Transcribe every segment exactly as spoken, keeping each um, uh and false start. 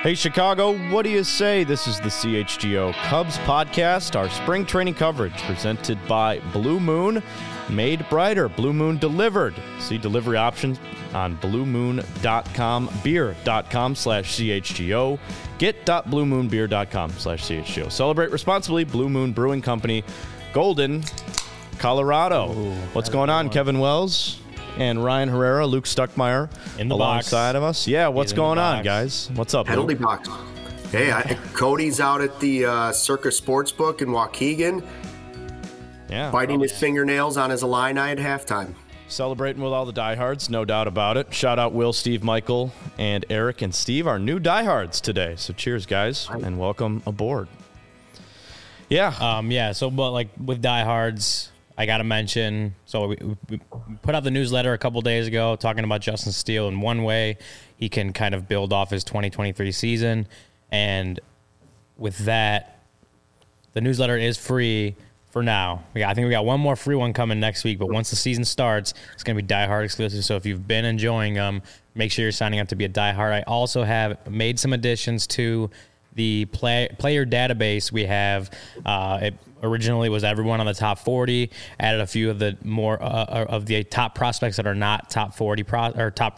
Hey, Chicago, what do you say? This is the C H G O Cubs podcast, our spring training coverage presented by Blue Moon, made brighter. Blue Moon delivered. See delivery options on blue moon dot com, beer.com slash CHGO, get.bluemoonbeer.com slash CHGO. Celebrate responsibly. Blue Moon Brewing Company, Golden, Colorado. Ooh, What's going on, Kevin Wells? And Ryan Herrera, Luke Stuckmeyer in the alongside box. of us. Yeah, what's He's going on, guys? What's up, Penalty Luke? box. Hey, I, Cody's out at the uh, Circus Sportsbook in Waukegan, yeah, biting his fingernails on his Illini at halftime. Celebrating with all the diehards, no doubt about it. Shout out Will, Steve, Michael, and Eric and Steve, our new diehards today. So cheers, guys, and welcome aboard. Yeah. Um, yeah, so but like with diehards, I got to mention, so we, we put out the newsletter a couple days ago talking about Justin Steele in one way he can kind of build off his twenty twenty-three season. And with that, the newsletter is free for now. We got, I think we got one more free one coming next week, but once the season starts, it's going to be diehard exclusive. So if you've been enjoying them, make sure you're signing up to be a diehard. I also have made some additions to the play, player database we have. Uh, it originally was everyone on the top forty. Added a few of the more uh, of the top prospects that are not top forty pro, or top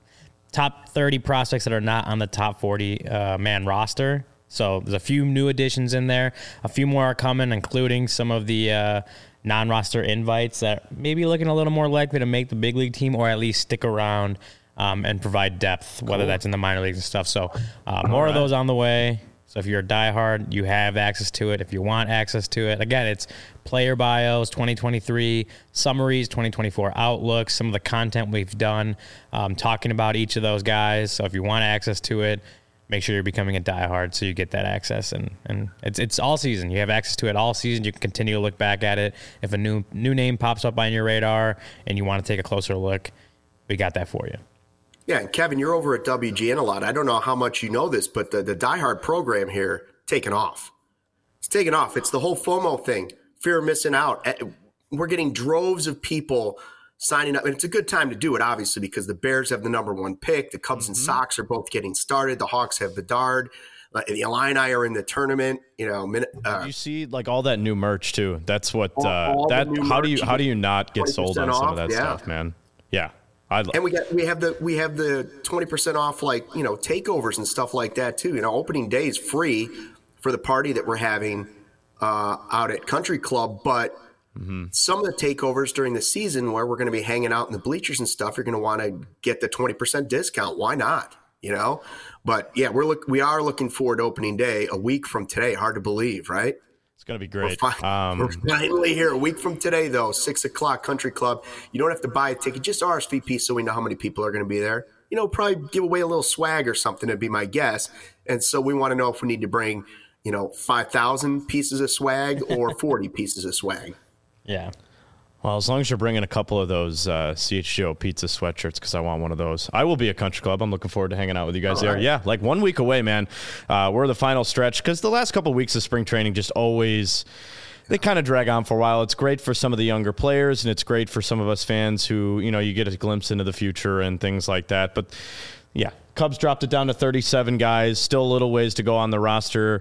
top thirty prospects that are not on the top forty uh, man roster. So there's a few new additions in there. A few more are coming, including some of the uh, non-roster invites that may be looking a little more likely to make the big league team or at least stick around Um, and provide depth, whether cool. that's in the minor leagues and stuff. So uh, more right. of those on the way. So if you're a diehard, you have access to it. If you want access to it, again, it's player bios, twenty twenty-three summaries, twenty twenty-four outlooks, some of the content we've done um, talking about each of those guys. So if you want access to it, make sure you're becoming a diehard so you get that access. And, and it's it's all season. You have access to it all season. You can continue to look back at it. If a new new name pops up on your radar and you want to take a closer look, we got that for you. Yeah, and Kevin, you're over at W G N a lot. I don't know how much you know this, but the, the Die Hard program here, taken off. It's taken off. It's the whole FOMO thing, fear of missing out. We're getting droves of people signing up, and it's a good time to do it, obviously, because the Bears have the number one pick. The Cubs mm-hmm. and Sox are both getting started. The Hawks have Bedard. The Illini are in the tournament. You know, uh, Did you see like all that new merch too? That's what uh, that. How do you how do you not get sold on some of that yeah. stuff, man? Yeah. I'd, and we got we have the we have the twenty percent off, like, you know, takeovers and stuff like that too. You know, opening day is free for the party that we're having uh, out at Country Club, but mm-hmm. some of the takeovers during the season where we're going to be hanging out in the bleachers and stuff, you're going to want to get the twenty percent discount. Why not? You know, but yeah, we're look we are looking forward to opening day a week from today. Hard to believe, right? It's going to be great. We're, fi- um, we're finally here. A week from today, though, six o'clock, Country Club. You don't have to buy a ticket. Just R S V P so we know how many people are going to be there. You know, probably give away a little swag or something would be my guess. And so we want to know if we need to bring, you know, five thousand pieces of swag or forty pieces of swag. Yeah. Well, as long as you're bringing a couple of those uh, C H G O pizza sweatshirts, because I want one of those. I will be at Country Club. I'm looking forward to hanging out with you guys All there. Right. Yeah, like one week away, man. Uh, we're the final stretch, because the last couple of weeks of spring training just always – they kind of drag on for a while. It's great for some of the younger players, and it's great for some of us fans who, you know, you get a glimpse into the future and things like that. But, yeah, Cubs dropped it down to thirty-seven guys. Still a little ways to go on the roster.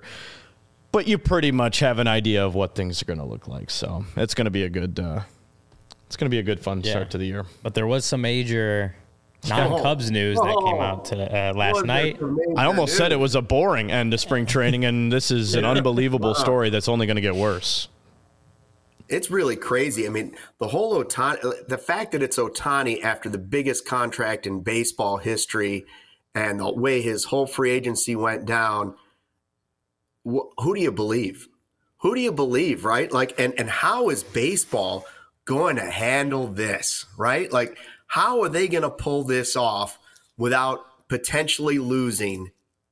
But you pretty much have an idea of what things are going to look like. So it's going to be a good uh, – It's going to be a good, fun yeah. start to the year. But there was some major non-Cubs news that came out to, uh, last night. I almost said it was a boring end to spring training, and this is an unbelievable story that's only going to get worse. It's really crazy. I mean, the whole Ohtani, the fact that it's Ohtani after the biggest contract in baseball history and the way his whole free agency went down, wh- who do you believe? Who do you believe, right? Like, and, and how is baseball going to handle this, right? Like, how are they going to pull this off without potentially losing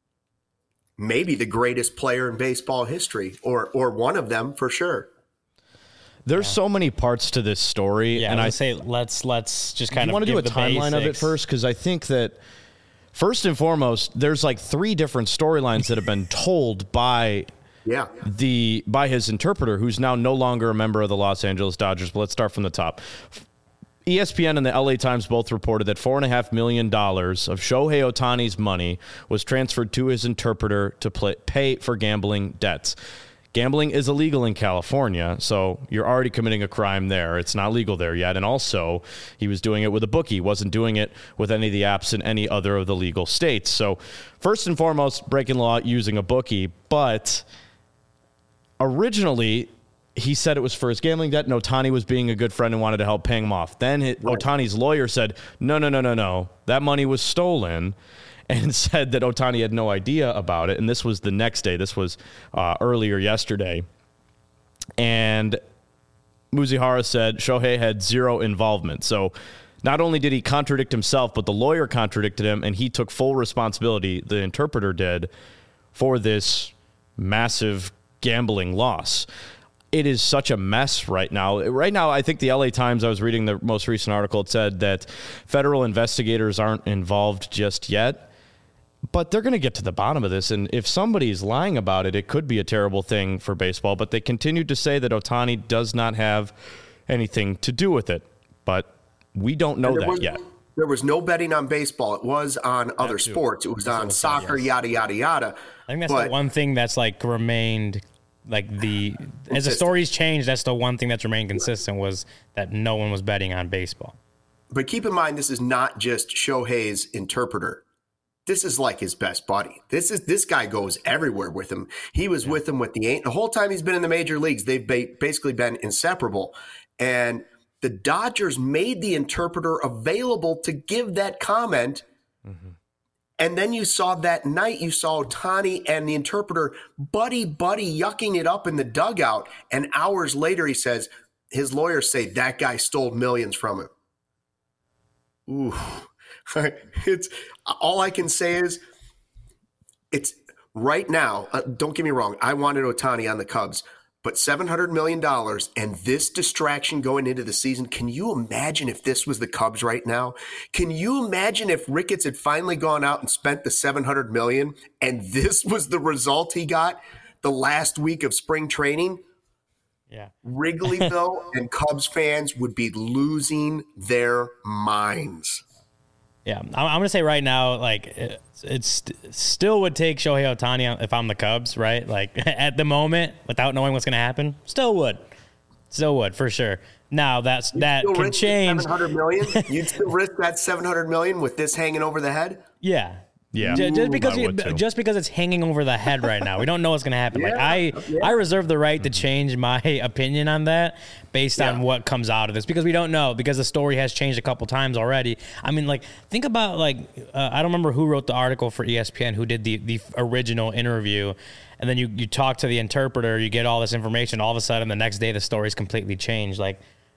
maybe the greatest player in baseball history, or or one of them for sure? There's yeah. so many parts to this story, yeah, and I say let's let's just kind you of want to do a timeline basics. of it first, because I think that first and foremost, there's like three different storylines that have been told by yeah the by his interpreter, who's now no longer a member of the Los Angeles Dodgers. But let's start from the top. E S P N and the L A Times both reported that four point five million dollars of Shohei Ohtani's money was transferred to his interpreter to play, pay for gambling debts. Gambling is illegal in California, so you're already committing a crime there. It's not legal there yet. And also, he was doing it with a bookie. He wasn't doing it with any of the apps in any other of the legal states. So first and foremost, breaking law using a bookie. But originally, he said it was for his gambling debt, and Ohtani was being a good friend and wanted to help paying him off. Then it, right. Ohtani's lawyer said, no, no, no, no, no. That money was stolen, and said that Ohtani had no idea about it. And this was the next day. This was uh, earlier yesterday. And Muzihara said Shohei had zero involvement. So not only did he contradict himself, but the lawyer contradicted him, and he took full responsibility, the interpreter did, for this massive gambling loss. It is such a mess right now. Right now, I think the L A Times, I was reading the most recent article, it said that federal investigators aren't involved just yet, but they're going to get to the bottom of this. And if somebody's lying about it, it could be a terrible thing for baseball. But they continued to say that Ohtani does not have anything to do with it. But we don't know that was, yet. There was no betting on baseball. It was on other sports. It was on soccer, yada, yada, yada. I think that's but, the one thing that's like remained... Like the as the stories changed, that's the one thing that's remained consistent was that no one was betting on baseball. But keep in mind, this is not just Shohei's interpreter. This is like his best buddy. This is this guy goes everywhere with him. He was yeah. with him with the the whole time he's been in the major leagues. They've basically been inseparable. And the Dodgers made the interpreter available to give that comment. Mm-hmm. And then you saw that night, you saw Ohtani and the interpreter buddy, buddy, yucking it up in the dugout. And hours later, he says, his lawyers say that guy stole millions from him. Ooh, it's all I can say is it's right now. Uh, don't get me wrong. I wanted Ohtani on the Cubs, but seven hundred million dollars and this distraction going into the season. Can you imagine if this was the Cubs right now? Can you imagine if Ricketts had finally gone out and spent the seven hundred million dollars and this was the result he got the last week of spring training? Yeah. Wrigleyville and Cubs fans would be losing their minds. Yeah, I'm, I'm going to say right now, like, it it's, still would take Shohei Ohtani if I'm the Cubs, right? Like, at the moment, without knowing what's going to happen, still would. Still would, for sure. Now, that's You'd that can change. seven hundred million dollars? You'd still risk that seven hundred million dollars with this hanging over the head? Yeah. Yeah, just, just because you, just because it's hanging over the head right now, we don't know what's going to happen. Yeah, like I, yeah. I reserve the right to change my opinion on that based yeah. on what comes out of this because we don't know because the story has changed a couple times already. I mean, like think about like uh, I don't remember who wrote the article for E S P N, who did the the original interview, and then you you talk to the interpreter, you get all this information. All of a sudden, the next day, the story's completely changed. Like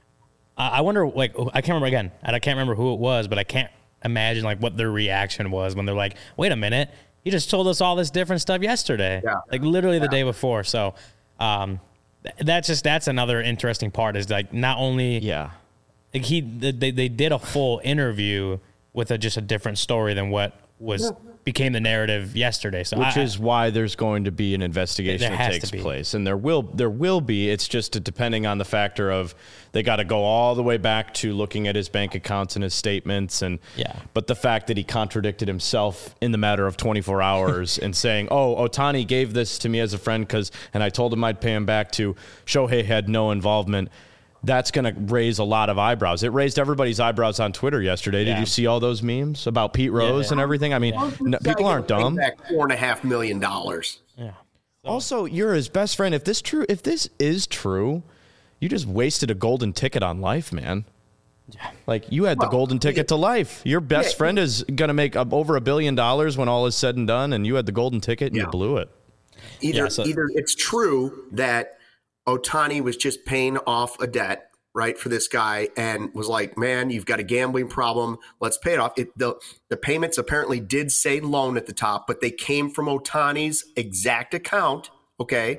I wonder, like I can't remember again, and I can't remember who it was, but I can't. Imagine like what their reaction was when they're like, wait a minute, you just told us all this different stuff yesterday. Yeah. Like literally the yeah. day before. So um, that's just, that's another interesting part is like not only, yeah, like he, they, they did a full interview with a, just a different story than what was became the narrative yesterday. So which I, is why there's going to be an investigation that takes place, and there will there will be. It's just depending on the factor of they got to go all the way back to looking at his bank accounts and his statements, and yeah. But the fact that he contradicted himself in the matter of twenty-four hours and saying, "Oh, Ohtani gave this to me as a friend because," and I told him I'd pay him back. To Shohei had no involvement. That's going to raise a lot of eyebrows. It raised everybody's eyebrows on Twitter yesterday. Yeah. Did you see all those memes about Pete Rose yeah, and everything? I mean, yeah. no, people aren't dumb. Back four and a half million dollars. Yeah. So. Also, you're his best friend. If this true, if this is true, you just wasted a golden ticket on life, man. Yeah. Like you had well, the golden ticket yeah. to life. Your best yeah. friend is going to make over a billion dollars when all is said and done, and you had the golden ticket and yeah. you blew it. Either yeah, so. either it's true that Ohtani was just paying off a debt, right, for this guy and was like, man, you've got a gambling problem. Let's pay it off. It, the, the payments apparently did say loan at the top, but they came from Ohtani's exact account, okay?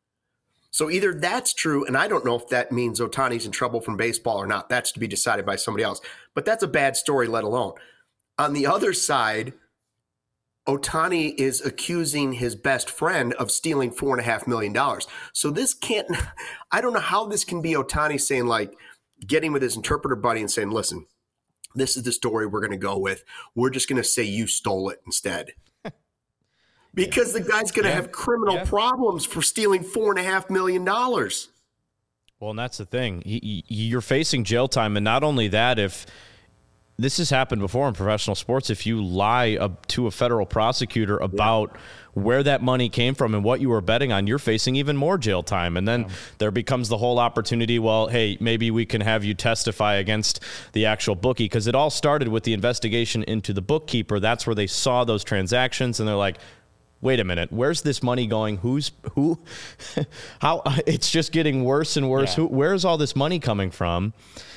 So either that's true, and I don't know if that means Ohtani's in trouble from baseball or not. That's to be decided by somebody else. But that's a bad story, let alone. On the other side, Ohtani is accusing his best friend of stealing four and a half million dollars. So this can't, I don't know how this can be Ohtani saying like, getting with his interpreter buddy and saying, listen, this is the story we're going to go with. We're just going to say you stole it instead. Because yeah. the guy's going to yeah. have criminal yeah. problems for stealing four and a half million dollars. Well, and that's the thing. You're facing jail time. And not only that, if this has happened before in professional sports, if you lie to a federal prosecutor about yeah. where that money came from and what you were betting on, you're facing even more jail time. And then yeah. there becomes the whole opportunity, well, hey, maybe we can have you testify against the actual bookie, because it all started with the investigation into the bookkeeper. That's where they saw those transactions, and they're like, wait a minute, where's this money going? Who's who? How? It's just getting worse and worse. Yeah. Who, where's all this money coming from?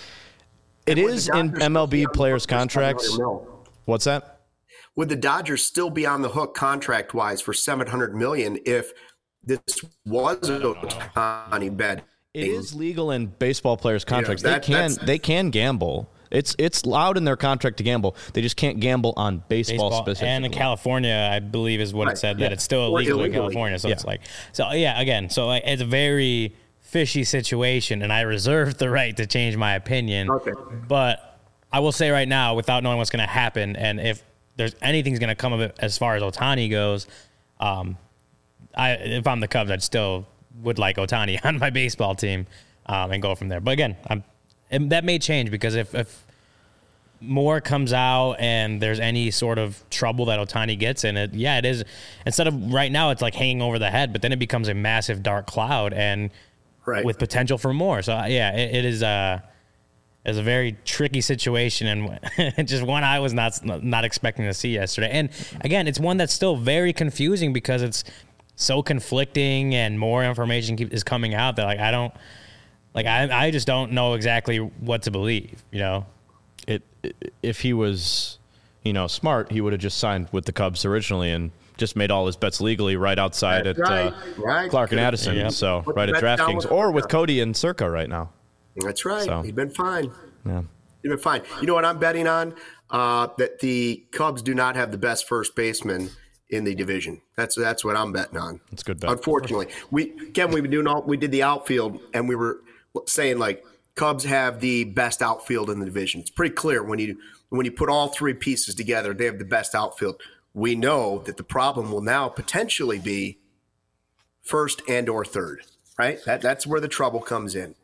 It is in M L B players' contracts. What's that? Would the Dodgers still be on the hook contract-wise for seven hundred million dollars if this was Ohtani bet? It is legal in baseball players' contracts. You know, that, they can they can gamble. It's it's allowed in their contract to gamble. They just can't gamble on baseball, baseball specifically. And in California, I believe is what right. it said, that yeah. it's still illegal in California. So yeah. it's like, so yeah, again, so like, it's a very fishy situation, and I reserve the right to change my opinion. Okay. But I will say right now, without knowing what's going to happen, and if there's anything's going to come of it as far as Ohtani goes, um, I if I'm the Cubs, I'd still would like Ohtani on my baseball team um, and go from there. But again, I'm. And that may change, because if, if more comes out and there's any sort of trouble that Ohtani gets in it, yeah, it is. Instead of right now, it's like hanging over the head, but then it becomes a massive dark cloud and right. with potential for more. So yeah, it, it is a is a very tricky situation, and just one I was not not expecting to see yesterday. And again, it's one that's still very confusing because it's so conflicting and more information keep, is coming out that like I don't. Like, I I just don't know exactly what to believe, you know? It, it if he was, you know, smart, he would have just signed with the Cubs originally and just made all his bets legally right outside That's at right. Uh, right. Clark and Addison. Yeah. So Put right at DraftKings, or with Cody and Circa right now. That's right. So, he's been fine. Yeah. He's been fine. You know what I'm betting on? Uh, that the Cubs do not have the best first baseman in the division. That's that's what I'm betting on. That's good bet. Unfortunately. We, Ken, we, been doing all, we did the outfield, and we were – saying like Cubs have the best outfield in the division. It's pretty clear when you when you put all three pieces together, they have the best outfield. We know that the problem will now potentially be first and or third, right? That that's where the trouble comes in.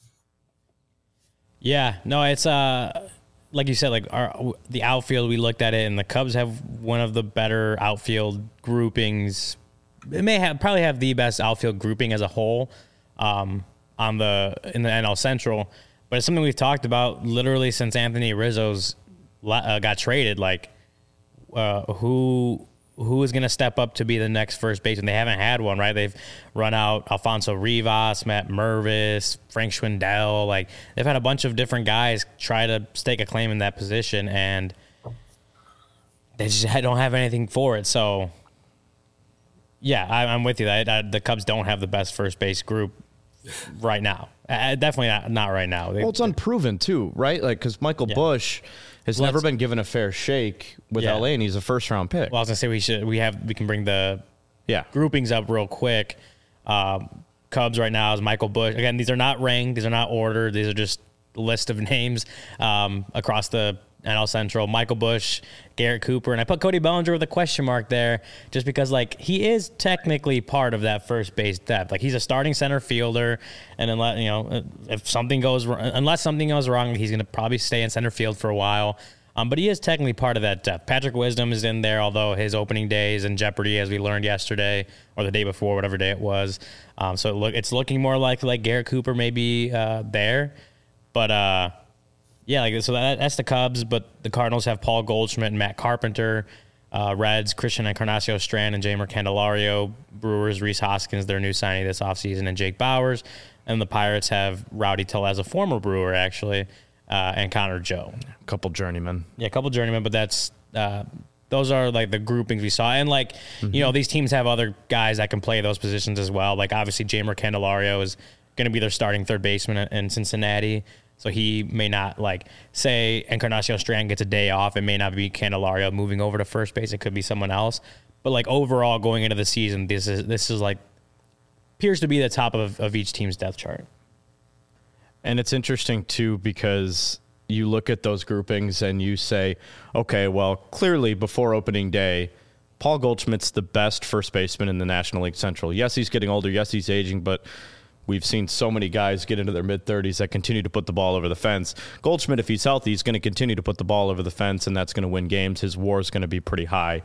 Yeah, no, it's uh like you said, like our the outfield, we looked at it, and the Cubs have one of the better outfield groupings. It may have probably have the best outfield grouping as a whole. Um on the in the N L Central, but it's something we've talked about literally since Anthony Rizzo's uh, got traded. Like, uh, who who is going to step up to be the next first baseman? They haven't had one, right? They've run out Alfonso Rivas, Matt Mervis, Frank Schwindel. Like, they've had a bunch of different guys try to stake a claim in that position, and they just don't have anything for it. So, yeah, I, I'm with you. I, I, the Cubs don't have the best first base group right now. Uh, definitely not, not right now. They, well, it's unproven too, right? Like, because Michael yeah. Busch has well, never been given a fair shake with yeah. L A, and he's a first round pick. Well, I was gonna say we should we have we can bring the yeah groupings up real quick. Um, Cubs right now is Michael Busch. Again, these are not ranked. These are not ordered. These are just a list of names um, across the N L Central. Michael Busch, Garrett Cooper, and I put Cody Bellinger with a question mark there just because, like, he is technically part of that first base depth. Like, he's a starting center fielder, and unless, you know, if something goes wrong, unless something goes wrong, he's going to probably stay in center field for a while. Um, but he is technically part of that depth. Patrick Wisdom is in there, although his opening day is in jeopardy, as we learned yesterday or the day before, whatever day it was. Um, so it look, it's looking more like like Garrett Cooper may be uh, there, but. Uh, Yeah, like so that, that's the Cubs, but the Cardinals have Paul Goldschmidt and Matt Carpenter. Uh, Reds, Christian Encarnacion Strand and Jeimer Candelario. Brewers, Rhys Hoskins, their new signing this offseason, and Jake Bowers. And the Pirates have Rowdy Tellez, a former Brewer, actually, uh, and Connor Joe. A couple journeymen. Yeah, a couple journeymen, but that's uh, those are like the groupings we saw. And like, mm-hmm. you know, these teams have other guys that can play those positions as well. Like, obviously, Jeimer Candelario is going to be their starting third baseman in Cincinnati. So he may not, like, say Encarnacion Strand gets a day off. It may not be Candelario moving over to first base. It could be someone else. But, like, overall, going into the season, this is, this is like, appears to be the top of, of each team's depth chart. And it's interesting, too, because you look at those groupings and you say, okay, well, clearly before opening day, Paul Goldschmidt's the best first baseman in the National League Central. Yes, he's getting older. Yes, he's aging, but we've seen so many guys get into their mid-thirties that continue to put the ball over the fence. Goldschmidt, if he's healthy, he's going to continue to put the ball over the fence, and that's going to win games. His WAR is going to be pretty high.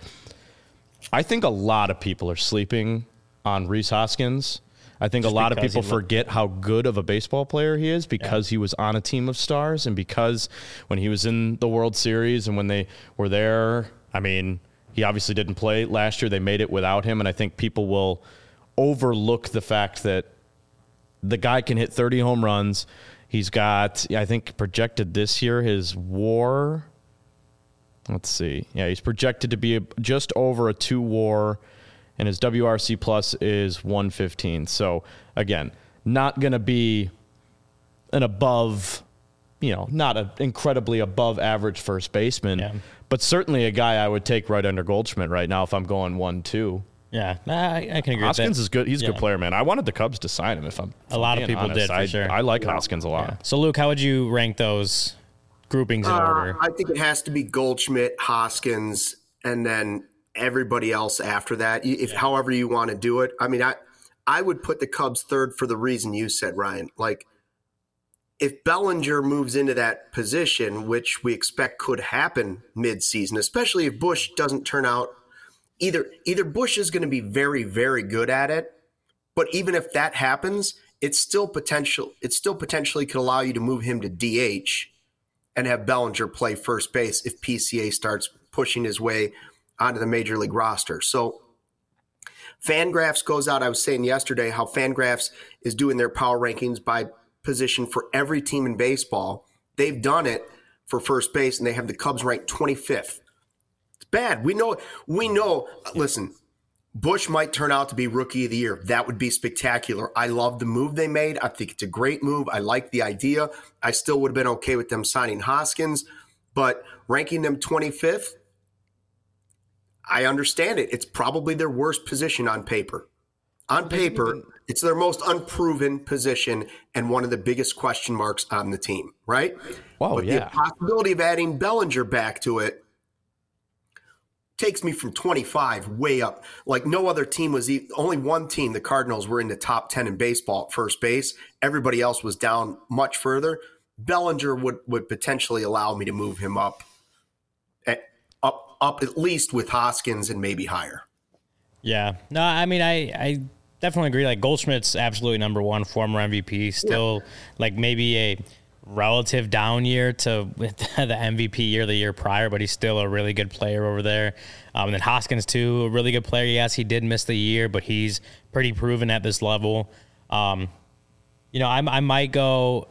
I think a lot of people are sleeping on Rhys Hoskins. I think Just a lot of people forget how good of a baseball player he is because yeah. he was on a team of stars, and because when he was in the World Series and when they were there, I mean, he obviously didn't play last year. They made it without him, and I think people will overlook the fact that the guy can hit thirty home runs. He's got, I think, projected this year, his WAR, let's see. Yeah, he's projected to be just over a two WAR, and his W R C plus is one fifteen. So, again, not going to be an above, you know, not an incredibly above average first baseman, yeah. but certainly a guy I would take right under Goldschmidt right now if I'm going one two. Yeah, I, I can agree Hoskins with that. Hoskins is good. He's a yeah. good player, man. I wanted the Cubs to sign him if I'm A lot of people honest. did, for I, sure. I like yeah. Hoskins a lot. Yeah. So, Luke, how would you rank those groupings in uh, order? I think it has to be Goldschmidt, Hoskins, and then everybody else after that, if yeah. however you want to do it. I mean, I I would put the Cubs third for the reason you said, Ryan. Like, if Bellinger moves into that position, which we expect could happen midseason, especially if Busch doesn't turn out, either either Busch is going to be very, very good at it, but even if that happens, it's still potential. It still potentially could allow you to move him to D H and have Bellinger play first base if P C A starts pushing his way onto the major league roster. So Fangraphs goes out. I was saying yesterday how Fangraphs is doing their power rankings by position for every team in baseball. They've done it for first base, and they have the Cubs ranked twenty-fifth. It's bad. We know. We know. Listen, Busch might turn out to be Rookie of the Year. That would be spectacular. I love the move they made. I think it's a great move. I like the idea. I still would have been okay with them signing Hoskins, but ranking them twenty-fifth, I understand it. It's probably their worst position on paper. On paper, it's their most unproven position and one of the biggest question marks on the team, right? Wow, but yeah. the possibility of adding Bellinger back to it takes me from twenty-five way up. Like no other team was – only one team, the Cardinals, were in the top ten in baseball at first base. Everybody else was down much further. Bellinger would, would potentially allow me to move him up at, up up at least with Hoskins and maybe higher. Yeah. No, I mean, I, I definitely agree. Like, Goldschmidt's absolutely number one, former M V P, still, yeah. like, maybe a relative down year to the M V P year the year prior, but he's still a really good player over there. Um, and then Hoskins, too, a really good player. Yes, he did miss the year, but he's pretty proven at this level. Um, you know, I, I might go,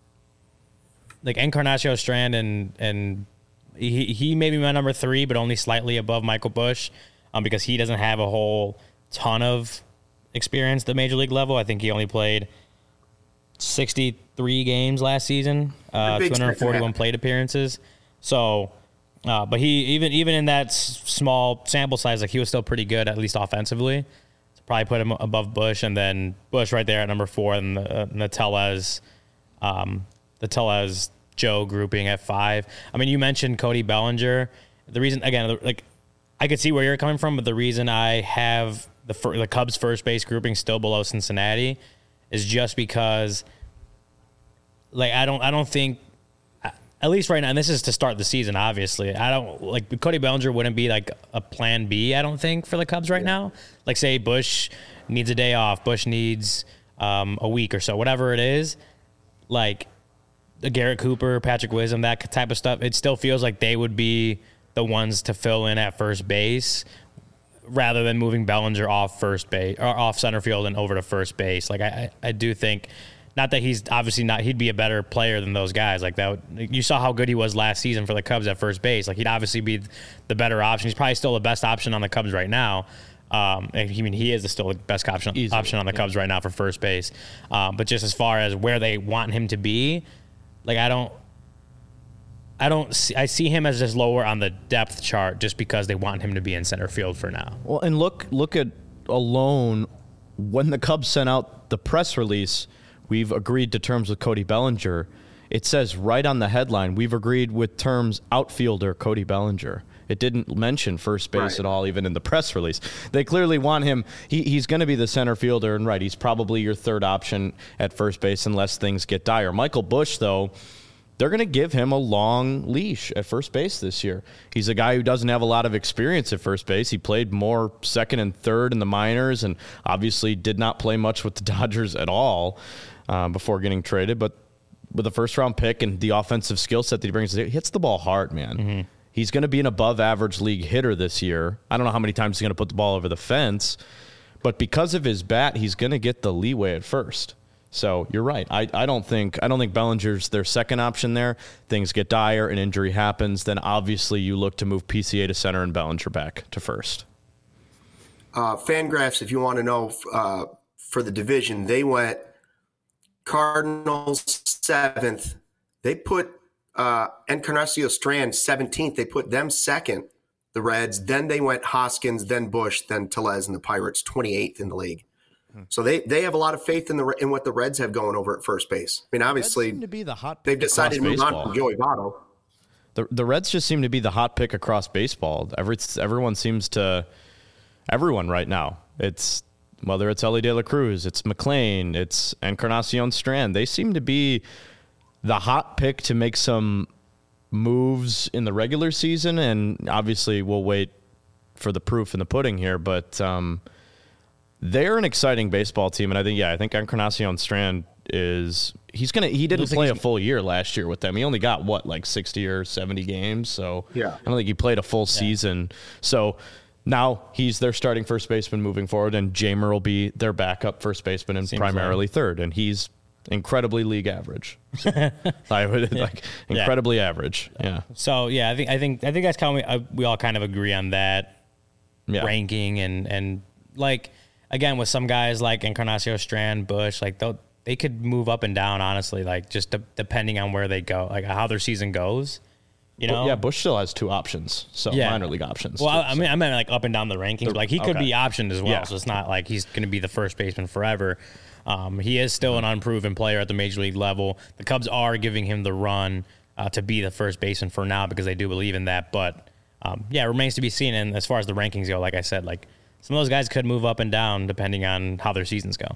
like, Encarnacion Strand, and, and he, he may be my number three, but only slightly above Michael Busch. Um, because he doesn't have a whole ton of experience at the major league level. I think he only played sixty-three games last season, uh, two hundred forty-one plate appearances. So, uh, but he even even in that s- small sample size, like he was still pretty good, at least offensively. So probably put him above Busch, and then Busch right there at number four, and the, uh, and the Tellez, um, the Tellez Joe grouping at five. I mean, you mentioned Cody Bellinger. The reason, again, like. I could see where you're coming from, but the reason I have the fir- the Cubs first base grouping still below Cincinnati is just because, like, I don't I don't think, at least right now, and this is to start the season, obviously, I don't, like, Cody Bellinger wouldn't be, like, a plan B, I don't think, for the Cubs right yeah. now. Like, say Busch needs a day off, Busch needs um, a week or so, whatever it is, like, the Garrett Cooper, Patrick Wisdom, that type of stuff, it still feels like they would be the ones to fill in at first base rather than moving Bellinger off first base or off center field and over to first base. Like, I, I do think, not that he's obviously not, he'd be a better player than those guys. Like, that, you saw how good he was last season for the Cubs at first base. Like, he'd obviously be the better option. He's probably still the best option on the Cubs right now. Um, I mean, he is still the best option, Easily, option on the yeah. Cubs right now for first base. Um, but just as far as where they want him to be, like, I don't, I don't see, I see him as just lower on the depth chart just because they want him to be in center field for now. Well, and look look at alone when the Cubs sent out the press release we've agreed to terms with Cody Bellinger. It says right on the headline, we've agreed with terms outfielder Cody Bellinger. It didn't mention first base right. at all, even in the press release. They clearly want him. He, he's going to be the center fielder, and right, he's probably your third option at first base unless things get dire. Michael Busch, though, they're going to give him a long leash at first base this year. He's a guy who doesn't have a lot of experience at first base. He played more second and third in the minors and obviously did not play much with the Dodgers at all uh, before getting traded. But with a first-round pick and the offensive skill set that he brings, he hits the ball hard, man. Mm-hmm. He's going to be an above-average league hitter this year. I don't know how many times he's going to put the ball over the fence, but because of his bat, he's going to get the leeway at first. So you're right. I, I don't think I don't think Bellinger's their second option there. Things get dire, an injury happens, then obviously you look to move P C A to center and Bellinger back to first. Uh, Fangraphs, if you want to know, uh, for the division, they went Cardinals seventh. They put uh, Encarnacion Strand seventeenth. They put them second, the Reds. Then they went Hoskins, then Busch, then Tellez and the Pirates, twenty-eighth in the league. So they, they have a lot of faith in the in what the Reds have going over at first base. I mean, obviously, to be the hot they've decided to move baseball. on from Joey Votto. The the Reds just seem to be the hot pick across baseball. Every everyone seems to everyone right now. It's whether it's Ellie De La Cruz, it's McLean, it's Encarnacion Strand. They seem to be the hot pick to make some moves in the regular season, and obviously we'll wait for the proof in the pudding here, but. Um, They're an exciting baseball team, and I think, yeah, I think Encarnacion Strand is he's gonna. He didn't play a full year last year with them. He only got what, like sixty or seventy games. So yeah, I don't think he played a full yeah. season. So now he's their starting first baseman moving forward, and Jamer will be their backup first baseman and Seems primarily like. third, and he's incredibly league average. So I would yeah. like incredibly yeah. average. Yeah. So yeah, I think I think I think that's kind of uh, we all kind of agree on that yeah. ranking and and like. Again, with some guys like Encarnacion Strand, Busch, like they they could move up and down, honestly, like just de- depending on where they go, like how their season goes. You know, well, yeah. Busch still has two options, so yeah. minor league options. Well, too, I, I mean, I meant like up and down the rankings. The, like he could okay. be optioned as well, yeah. so it's not like he's going to be the first baseman forever. Um, he is still an unproven player at the major league level. The Cubs are giving him the run uh, to be the first baseman for now because they do believe in that. But um, yeah, it remains to be seen. And as far as the rankings go, like I said, like. Some of those guys could move up and down depending on how their seasons go.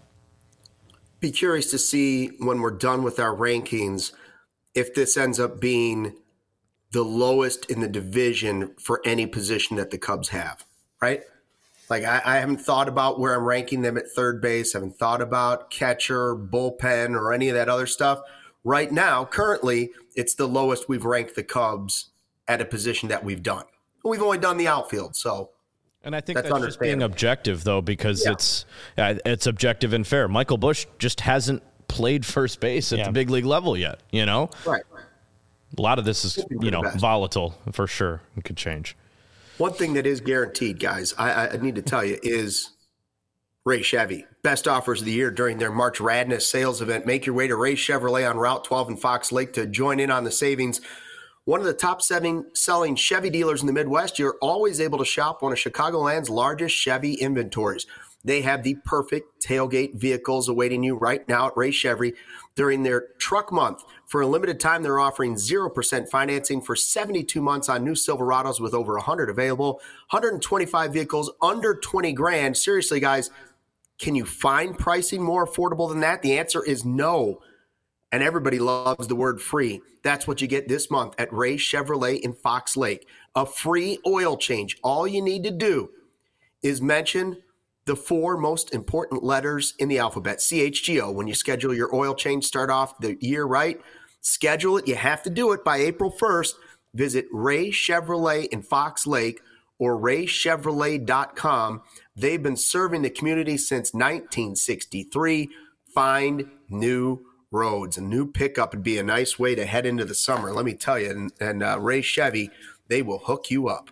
Be curious to see when we're done with our rankings if this ends up being the lowest in the division for any position that the Cubs have, right? Like I, I haven't thought about where I'm ranking them at third base. I haven't thought about catcher, bullpen, or any of that other stuff. Right now, currently, it's the lowest we've ranked the Cubs at a position that we've done. We've only done the outfield, so. And I think that's, that's just being objective, though, because yeah. it's uh, it's objective and fair. Michael Busch just hasn't played first base at yeah. the big league level yet, you know? Right. A lot of this is, you know, volatile for sure. It could change. One thing that is guaranteed, guys, I, I need to tell you, is Ray Chevy. Best offers of the year during their March Radness sales event. Make your way to Ray Chevrolet on Route twelve in Fox Lake to join in on the savings. One of the top seven selling Chevy dealers in the Midwest, you're always able to shop one of Chicagoland's largest Chevy inventories. They have the perfect tailgate vehicles awaiting you right now at Ray Chevy during their truck month. For a limited time, they're offering zero percent financing for seventy-two months on new Silverados with over one hundred available, one hundred twenty-five vehicles under twenty grand. Seriously, guys, can you find pricing more affordable than that? The answer is no. And everybody loves the word free. That's what you get this month at Ray Chevrolet in Fox Lake. A free oil change. All you need to do is mention the four most important letters in the alphabet, C H G O. When you schedule your oil change, start off the year right. Schedule it. You have to do it by April first. Visit Ray Chevrolet in Fox Lake or ray chevrolet dot com. They've been serving the community since nineteen sixty-three. Find new roads. A new pickup would be a nice way to head into the summer, let me tell you. And, and uh, Ray Chevy, they will hook you up.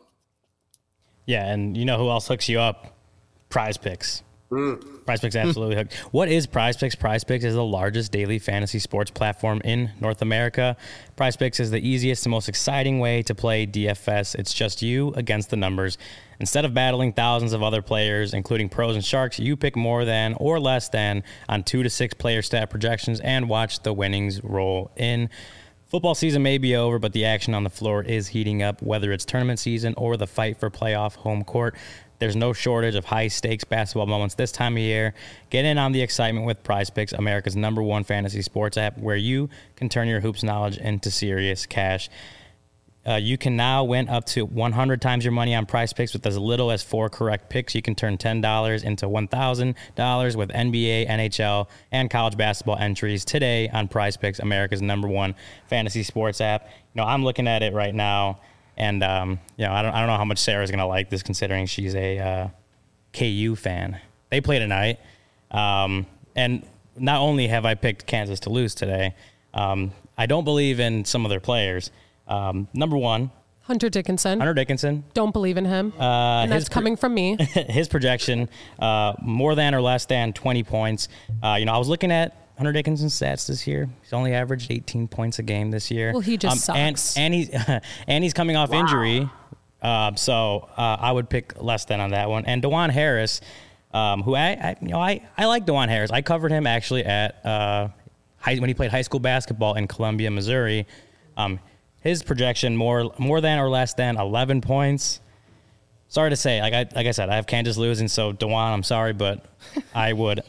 Yeah, and you know who else hooks you up? Prize Picks. Mm. Prize Picks absolutely hooked. What is Prize Picks? Prize Picks is the largest daily fantasy sports platform in North America. Prize Picks is the easiest and most exciting way to play D F S. It's just you against the numbers. Instead of battling thousands of other players, including pros and sharks, you pick more than or less than on two to six player stat projections and watch the winnings roll in. Football season may be over, but the action on the floor is heating up, whether it's tournament season or the fight for playoff home court. There's no shortage of high-stakes basketball moments this time of year. Get in on the excitement with PrizePicks, America's number one fantasy sports app, where you can turn your hoops knowledge into serious cash. Uh, you can now win up to one hundred times your money on PrizePicks with as little as four correct picks. You can turn ten dollars into one thousand dollars with N B A, N H L, and college basketball entries today on PrizePicks, America's number one fantasy sports app. You know, I'm looking at it right now. And, um, you know, I don't, I don't know how much Sarah's going to like this considering she's a uh, K U fan. They play tonight. Um, and not only have I picked Kansas to lose today, um, I don't believe in some of their players. Um, number one. Hunter Dickinson. Hunter Dickinson. Don't believe in him. Uh, and that's pro- coming from me. His projection, uh, more than or less than twenty points. Uh, you know, I was looking at Hunter Dickinson's stats this year. He's only averaged eighteen points a game this year. Well, he just um, sucks. And, and, he's, and he's coming off wow. injury. Uh, so uh, I would pick less than on that one. And DeJuan Harris, um, who I, I, you know, I, I like DeJuan Harris. I covered him actually at uh, high, when he played high school basketball in Columbia, Missouri. Um, his projection more more than or less than eleven points. Sorry to say, like I like I said, I have Kansas losing, so DeJuan, I'm sorry, but I would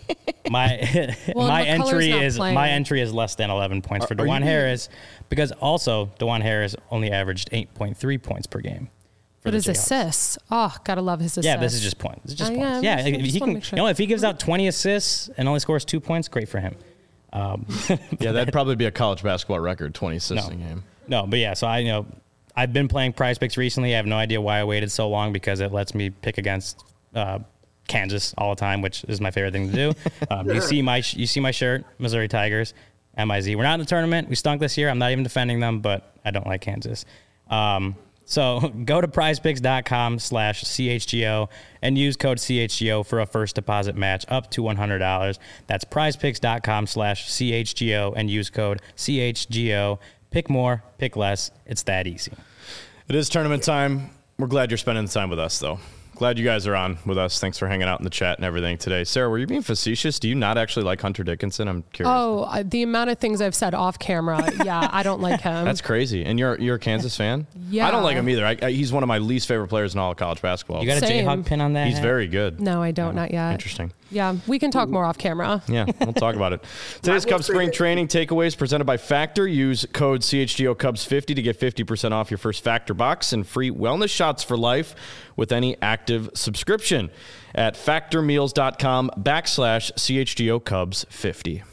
my well, my entry is playing. my entry is less than eleven points for are, DeJuan are Harris, because also DeJuan Harris only averaged eight point three points per game. But his assists, oh, gotta love his assists. Yeah, this is just points. This is just uh, points. Yeah, yeah, he can. Sure. You know, if he gives out twenty assists and only scores two points, great for him. Um, yeah, that'd probably be a college basketball record, twenty assists no, a game. No, but yeah, so I you know. I've been playing PrizePicks recently. I have no idea why I waited so long because it lets me pick against uh, Kansas all the time, which is my favorite thing to do. Um, you see my you see my shirt, Missouri Tigers, M I Z. We're not in the tournament. We stunk this year. I'm not even defending them, but I don't like Kansas. Um, so go to prizepicks.com slash CHGO and use code C H G O for a first deposit match up to one hundred dollars. That's prizepicks.com slash CHGO and use code C H G O. Pick more, pick less. It's that easy. It is tournament time. We're glad you're spending the time with us, though. Glad you guys are on with us. Thanks for hanging out in the chat and everything today. Sarah, were you being facetious? Do you not actually like Hunter Dickinson? I'm curious. Oh, uh, the amount of things I've said off camera. Yeah, I don't like him. That's crazy. And you're you're a Kansas fan? Yeah. I don't like him either. I, I, he's one of my least favorite players in all of college basketball. You got a J-Hawk pin on that? He's very good. No, I don't. Oh, not yet. Interesting. Yeah, we can talk more off camera. Yeah, we'll talk about it. Today's Cubs Spring Training Takeaways presented by Factor. Use code C H G O Cubs fifty to get fifty percent off your first Factor box and free wellness shots for life with any active subscription at factormeals.com backslash CHGO Cubs 50.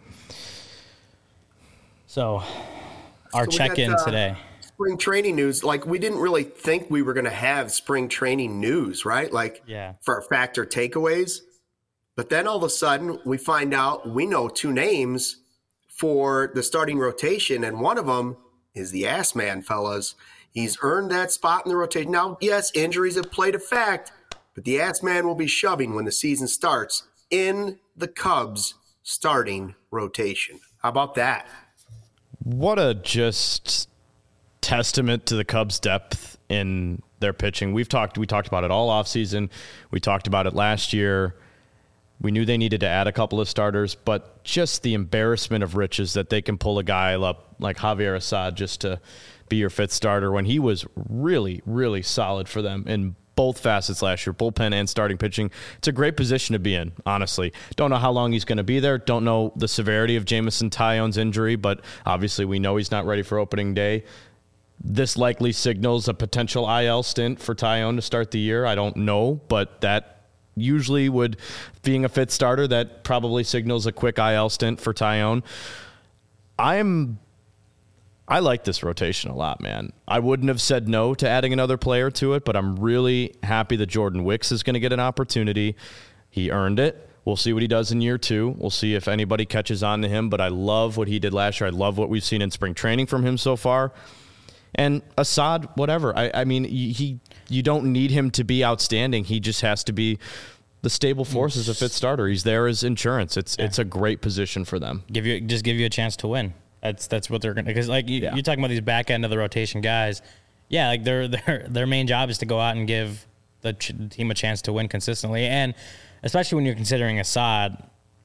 So, our so check-in got, uh, today. Spring training news. Like, we didn't really think we were going to have spring training news, right? Like, yeah. for Factor takeaways. But then all of a sudden, we find out we know two names for the starting rotation, and one of them is the Ass Man, fellas. He's earned that spot in the rotation. Now, yes, injuries have played a fact, but the Ass Man will be shoving when the season starts in the Cubs starting rotation. How about that? What a just testament to the Cubs' depth in their pitching. We've talked we talked about it all offseason. We talked about it last year. We knew they needed to add a couple of starters, but just the embarrassment of riches that they can pull a guy up like Javier Assad just to be your fifth starter when he was really, really solid for them in both facets last year, bullpen and starting pitching. It's a great position to be in, honestly. Don't know how long he's going to be there. Don't know the severity of Jameson Taillon's injury, but obviously we know he's not ready for opening day. This likely signals a potential I L stint for Taillon to start the year. I don't know, but that usually would, being a fifth starter, that probably signals a quick I L stint for Taillon. I'm I like this rotation a lot, man. I wouldn't have said no to adding another player to it, but I'm really happy that Jordan Wicks is going to get an opportunity. He earned it. We'll see what he does in year two. We'll see if anybody catches on to him, but I love what he did last year. I love what we've seen in spring training from him so far. And Assad, whatever. I, I mean, he you don't need him to be outstanding. He just has to be the stable force as a fifth starter. He's there as insurance. It's yeah. it's a great position for them. Give you just give you a chance to win. That's that's what they're going to, because like you, yeah. you're talking about these back end of the rotation guys. Yeah, like their their their main job is to go out and give the ch- team a chance to win consistently. And especially when you're considering Assad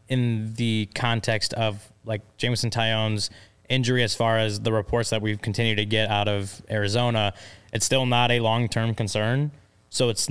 in the context of like Jameson Taillon's injury, as far as the reports that we've continued to get out of Arizona, it's still not a long-term concern. So it's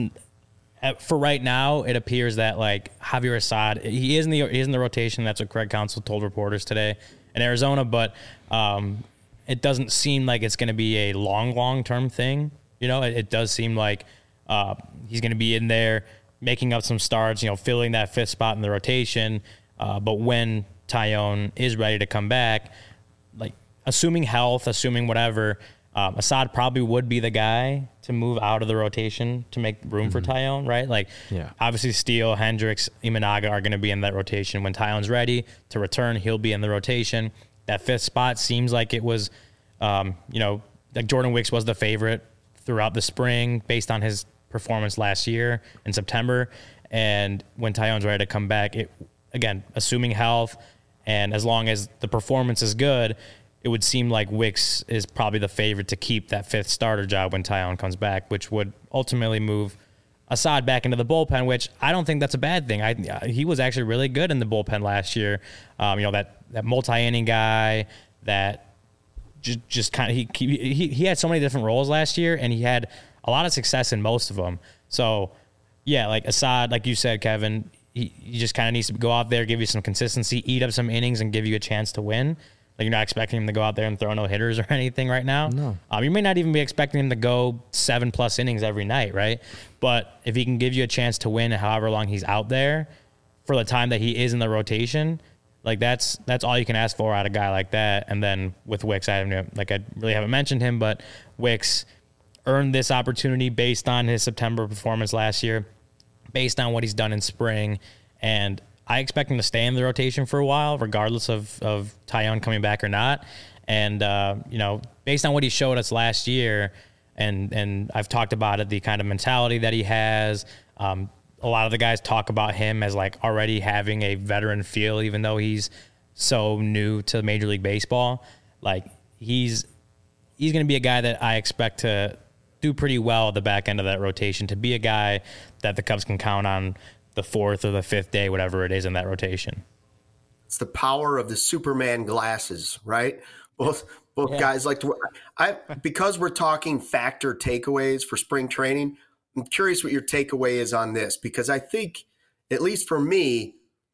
for right now, it appears that like Javier Assad, he is in the he is in the rotation. That's what Craig Counsell told reporters today in Arizona. But um, it doesn't seem like it's going to be a long, long-term thing. You know, it, it does seem like uh, he's going to be in there making up some starts, you know, filling that fifth spot in the rotation. Uh, but when Taillon is ready to come back, like assuming health, assuming whatever, Um, Assad probably would be the guy to move out of the rotation to make room mm-hmm. for Taillon, right? Like, yeah. obviously Steele, Hendricks, Imanaga are going to be in that rotation. When Taillon's ready to return, he'll be in the rotation. That fifth spot seems like it was, um, you know, like Jordan Wicks was the favorite throughout the spring based on his performance last year in September. And when Taillon's ready to come back, it again, assuming health, and as long as the performance is good, it would seem like Wicks is probably the favorite to keep that fifth starter job when Taillon comes back, which would ultimately move Assad back into the bullpen, which I don't think that's a bad thing. I he was actually really good in the bullpen last year. Um, you know, that that multi-inning guy that just just kind of he, he he had so many different roles last year, and he had a lot of success in most of them. So yeah, like Assad, like you said, Kevin, he, he just kind of needs to go out there, give you some consistency, eat up some innings, and give you a chance to win. Like, you're not expecting him to go out there and throw no hitters or anything right now. No. Um, you may not even be expecting him to go seven plus innings every night, right? But if he can give you a chance to win however long he's out there for the time that he is in the rotation, like that's that's all you can ask for out of a guy like that. And then with Wicks, I haven't like I really haven't mentioned him, but Wicks earned this opportunity based on his September performance last year, based on what he's done in spring, and I expect him to stay in the rotation for a while, regardless of, of Taillon coming back or not. And, uh, you know, based on what he showed us last year, and and I've talked about it, the kind of mentality that he has, um, a lot of the guys talk about him as, like, already having a veteran feel, even though he's so new to Major League Baseball. Like, he's he's going to be a guy that I expect to do pretty well at the back end of that rotation, to be a guy that the Cubs can count on the fourth or the fifth day, whatever it is in that rotation. It's the power of the Superman glasses, right? Both both yeah. guys like to. I because we're talking factor takeaways for spring training. I'm curious what your takeaway is on this, because I think, at least for me,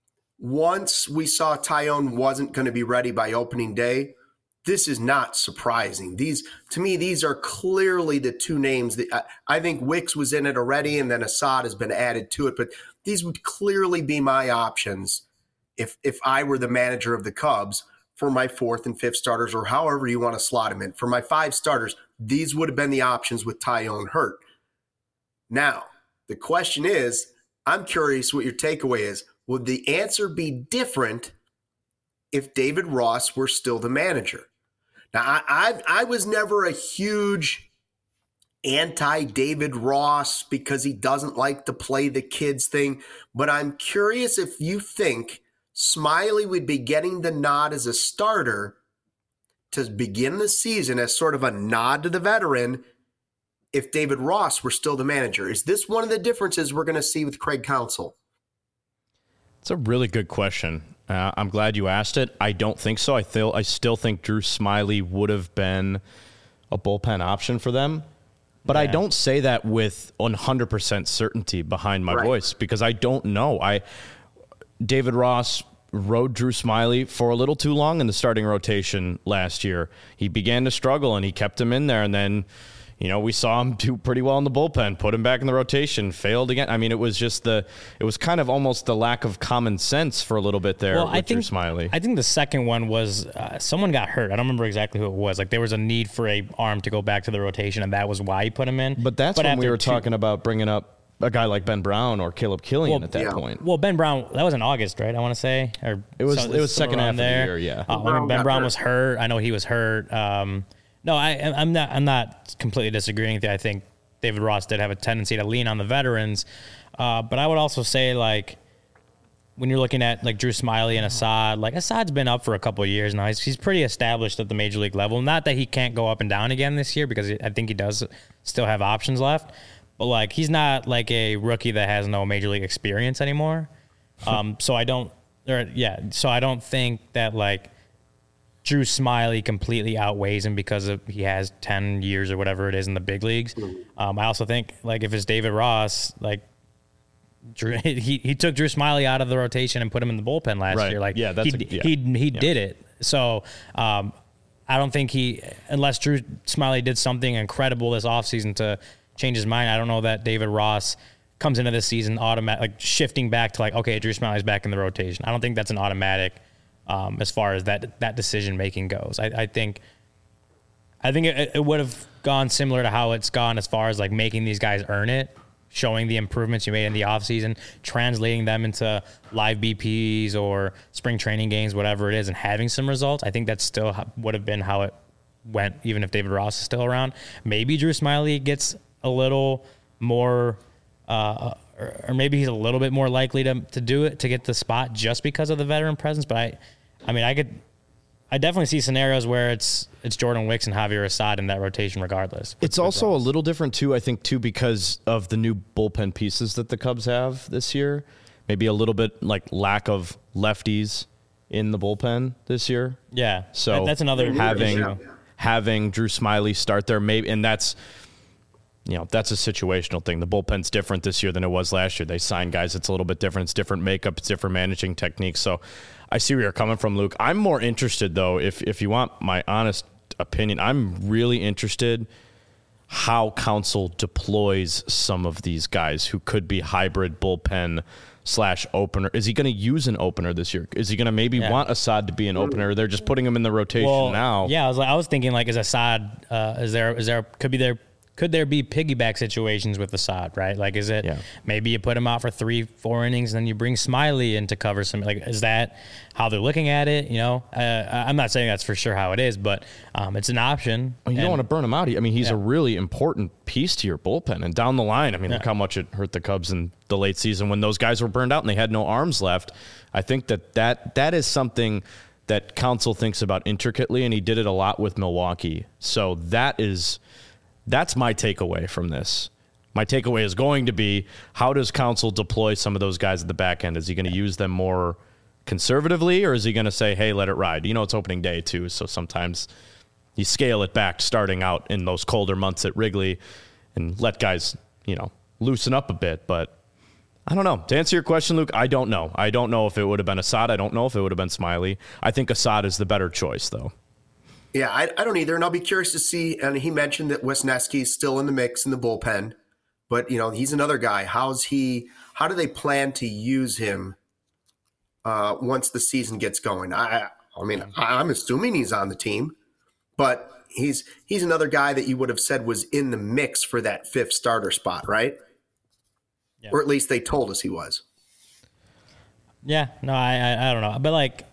once we saw Taillon wasn't going to be ready by opening day, this is not surprising. These, to me, these are clearly the two names that I, I think Wicks was in it already, and then Assad has been added to it. But these would clearly be my options if if I were the manager of the Cubs for my fourth and fifth starters, or however you want to slot them in. For my five starters, these would have been the options with Taillon hurt. Now, the question is, I'm curious what your takeaway is. Would the answer be different if David Ross were still the manager? Now, I, I, I was never a huge anti-David Ross because he doesn't like to play the kids thing, but I'm curious if you think Smiley would be getting the nod as a starter to begin the season as sort of a nod to the veteran if David Ross were still the manager. Is this one of the differences we're going to see with Craig Counsell? It's a really good question. Uh, I'm glad you asked it. I don't think so. I feel I still think Drew Smiley would have been a bullpen option for them. But yeah. I don't say that with one hundred percent certainty behind my right. voice, because I don't know. I David Ross rode Drew Smiley for a little too long in the starting rotation last year. He began to struggle, and he kept him in there, and then, you know, we saw him do pretty well in the bullpen, put him back in the rotation, failed again. I mean, it was just the, it was kind of almost the lack of common sense for a little bit there well, with I think, Drew Smiley. I think the second one was uh, someone got hurt. I don't remember exactly who it was. Like, there was a need for a arm to go back to the rotation, and that was why he put him in. But that's but when we were two, talking about bringing up a guy like Ben Brown or Caleb Killian well, at that yeah. point. Well, Ben Brown, that was in August, right? I want to say, or it was. It was second half there. of the year. Yeah. Uh, when Ben Brown hurt. was hurt, I know he was hurt. Um, no, I, I'm not. I'm not completely disagreeing with you. I think David Ross did have a tendency to lean on the veterans, uh, but I would also say, like, when you're looking at like Drew Smiley and Assad, like Assad's been up for a couple of years now. He's he's pretty established at the major league level. Not that he can't go up and down again this year, because I think he does still have options left. but like he's not like a rookie that has no major league experience anymore. Um, so I don't, or yeah, so I don't think that like Drew Smyly completely outweighs him because of he has ten years or whatever it is in the big leagues. Um, I also think like if it's David Ross, like Drew, he he took Drew Smyly out of the rotation and put him in the bullpen last Right. year. Like Yeah, that's he a- yeah. he he Yeah. did it. So um, I don't think he, unless Drew Smyly did something incredible this offseason to change his mind, I don't know that David Ross comes into this season automatic, like shifting back to like, okay, Drew Smyly's back in the rotation. I don't think that's an automatic um, as far as that that decision making goes. I, I think I think it, it would have gone similar to how it's gone as far as like making these guys earn it, showing the improvements you made in the offseason, translating them into live B Ps or spring training games, whatever it is, and having some results. I think that still ha- would have been how it went, even if David Ross is still around. Maybe Drew Smyly gets a little more, uh, or, or maybe he's a little bit more likely to to do it, to get the spot just because of the veteran presence. But I, I mean, I could, I definitely see scenarios where it's it's Jordan Wicks and Javier Assad in that rotation regardless. with- It's with also Ross. a little different too, I think, too, because of the new bullpen pieces that the Cubs have this year. Maybe a little bit like lack of lefties in the bullpen this year. Yeah. So that- that's another having issue. having Drew Smyly start there, maybe, and that's you know that's a situational thing. The bullpen's different this year than it was last year. They signed guys; it's a little bit different. It's different makeup. It's different managing techniques. So I see where you're coming from, Luke. I'm more interested though, if if you want my honest opinion, I'm really interested how Counsell deploys some of these guys who could be hybrid bullpen slash opener. Is he going to use an opener this year? Is he going to maybe Yeah. want Assad to be an opener? They're just putting him in the rotation Well, now. Yeah, I was like, I was thinking like, is Assad? Uh, is there? Is there? Could be there? Could there be piggyback situations with Assad? Right? Like, is it Yeah. maybe you put him out for three, four innings, and then you bring Smyly in to cover some? Like, is that how they're looking at it? You know, uh, I'm not saying that's for sure how it is, but um, it's an option. You don't And- want to burn him out. I mean, he's Yeah. a really important piece to your bullpen. And down the line, I mean, look Yeah. how much it hurt the Cubs in the late season when those guys were burned out and they had no arms left. I think that that, that is something that Counsell thinks about intricately, and he did it a lot with Milwaukee. So that is that's my takeaway from this. My takeaway is going to be, how does Counsell deploy some of those guys at the back end? Is he going to use them more conservatively, or is he going to say, hey, let it ride? You know, it's opening day too, so sometimes you scale it back starting out in those colder months at Wrigley and let guys, you know, loosen up a bit. But I don't know. To answer your question, Luke, I don't know. I don't know if it would have been Assad. I don't know if it would have been Smyly. I think Assad is the better choice, though. Yeah, I, I don't either, and I'll be curious to see. And he mentioned that Wisniewski is still in the mix in the bullpen, but you know he's another guy. How's he? How do they plan to use him uh, once the season gets going? I, I mean, I, I'm assuming he's on the team, but he's he's another guy that you would have said was in the mix for that fifth starter spot, right? Yeah. Or at least they told us he was. Yeah, no, I, I, I don't know, but like,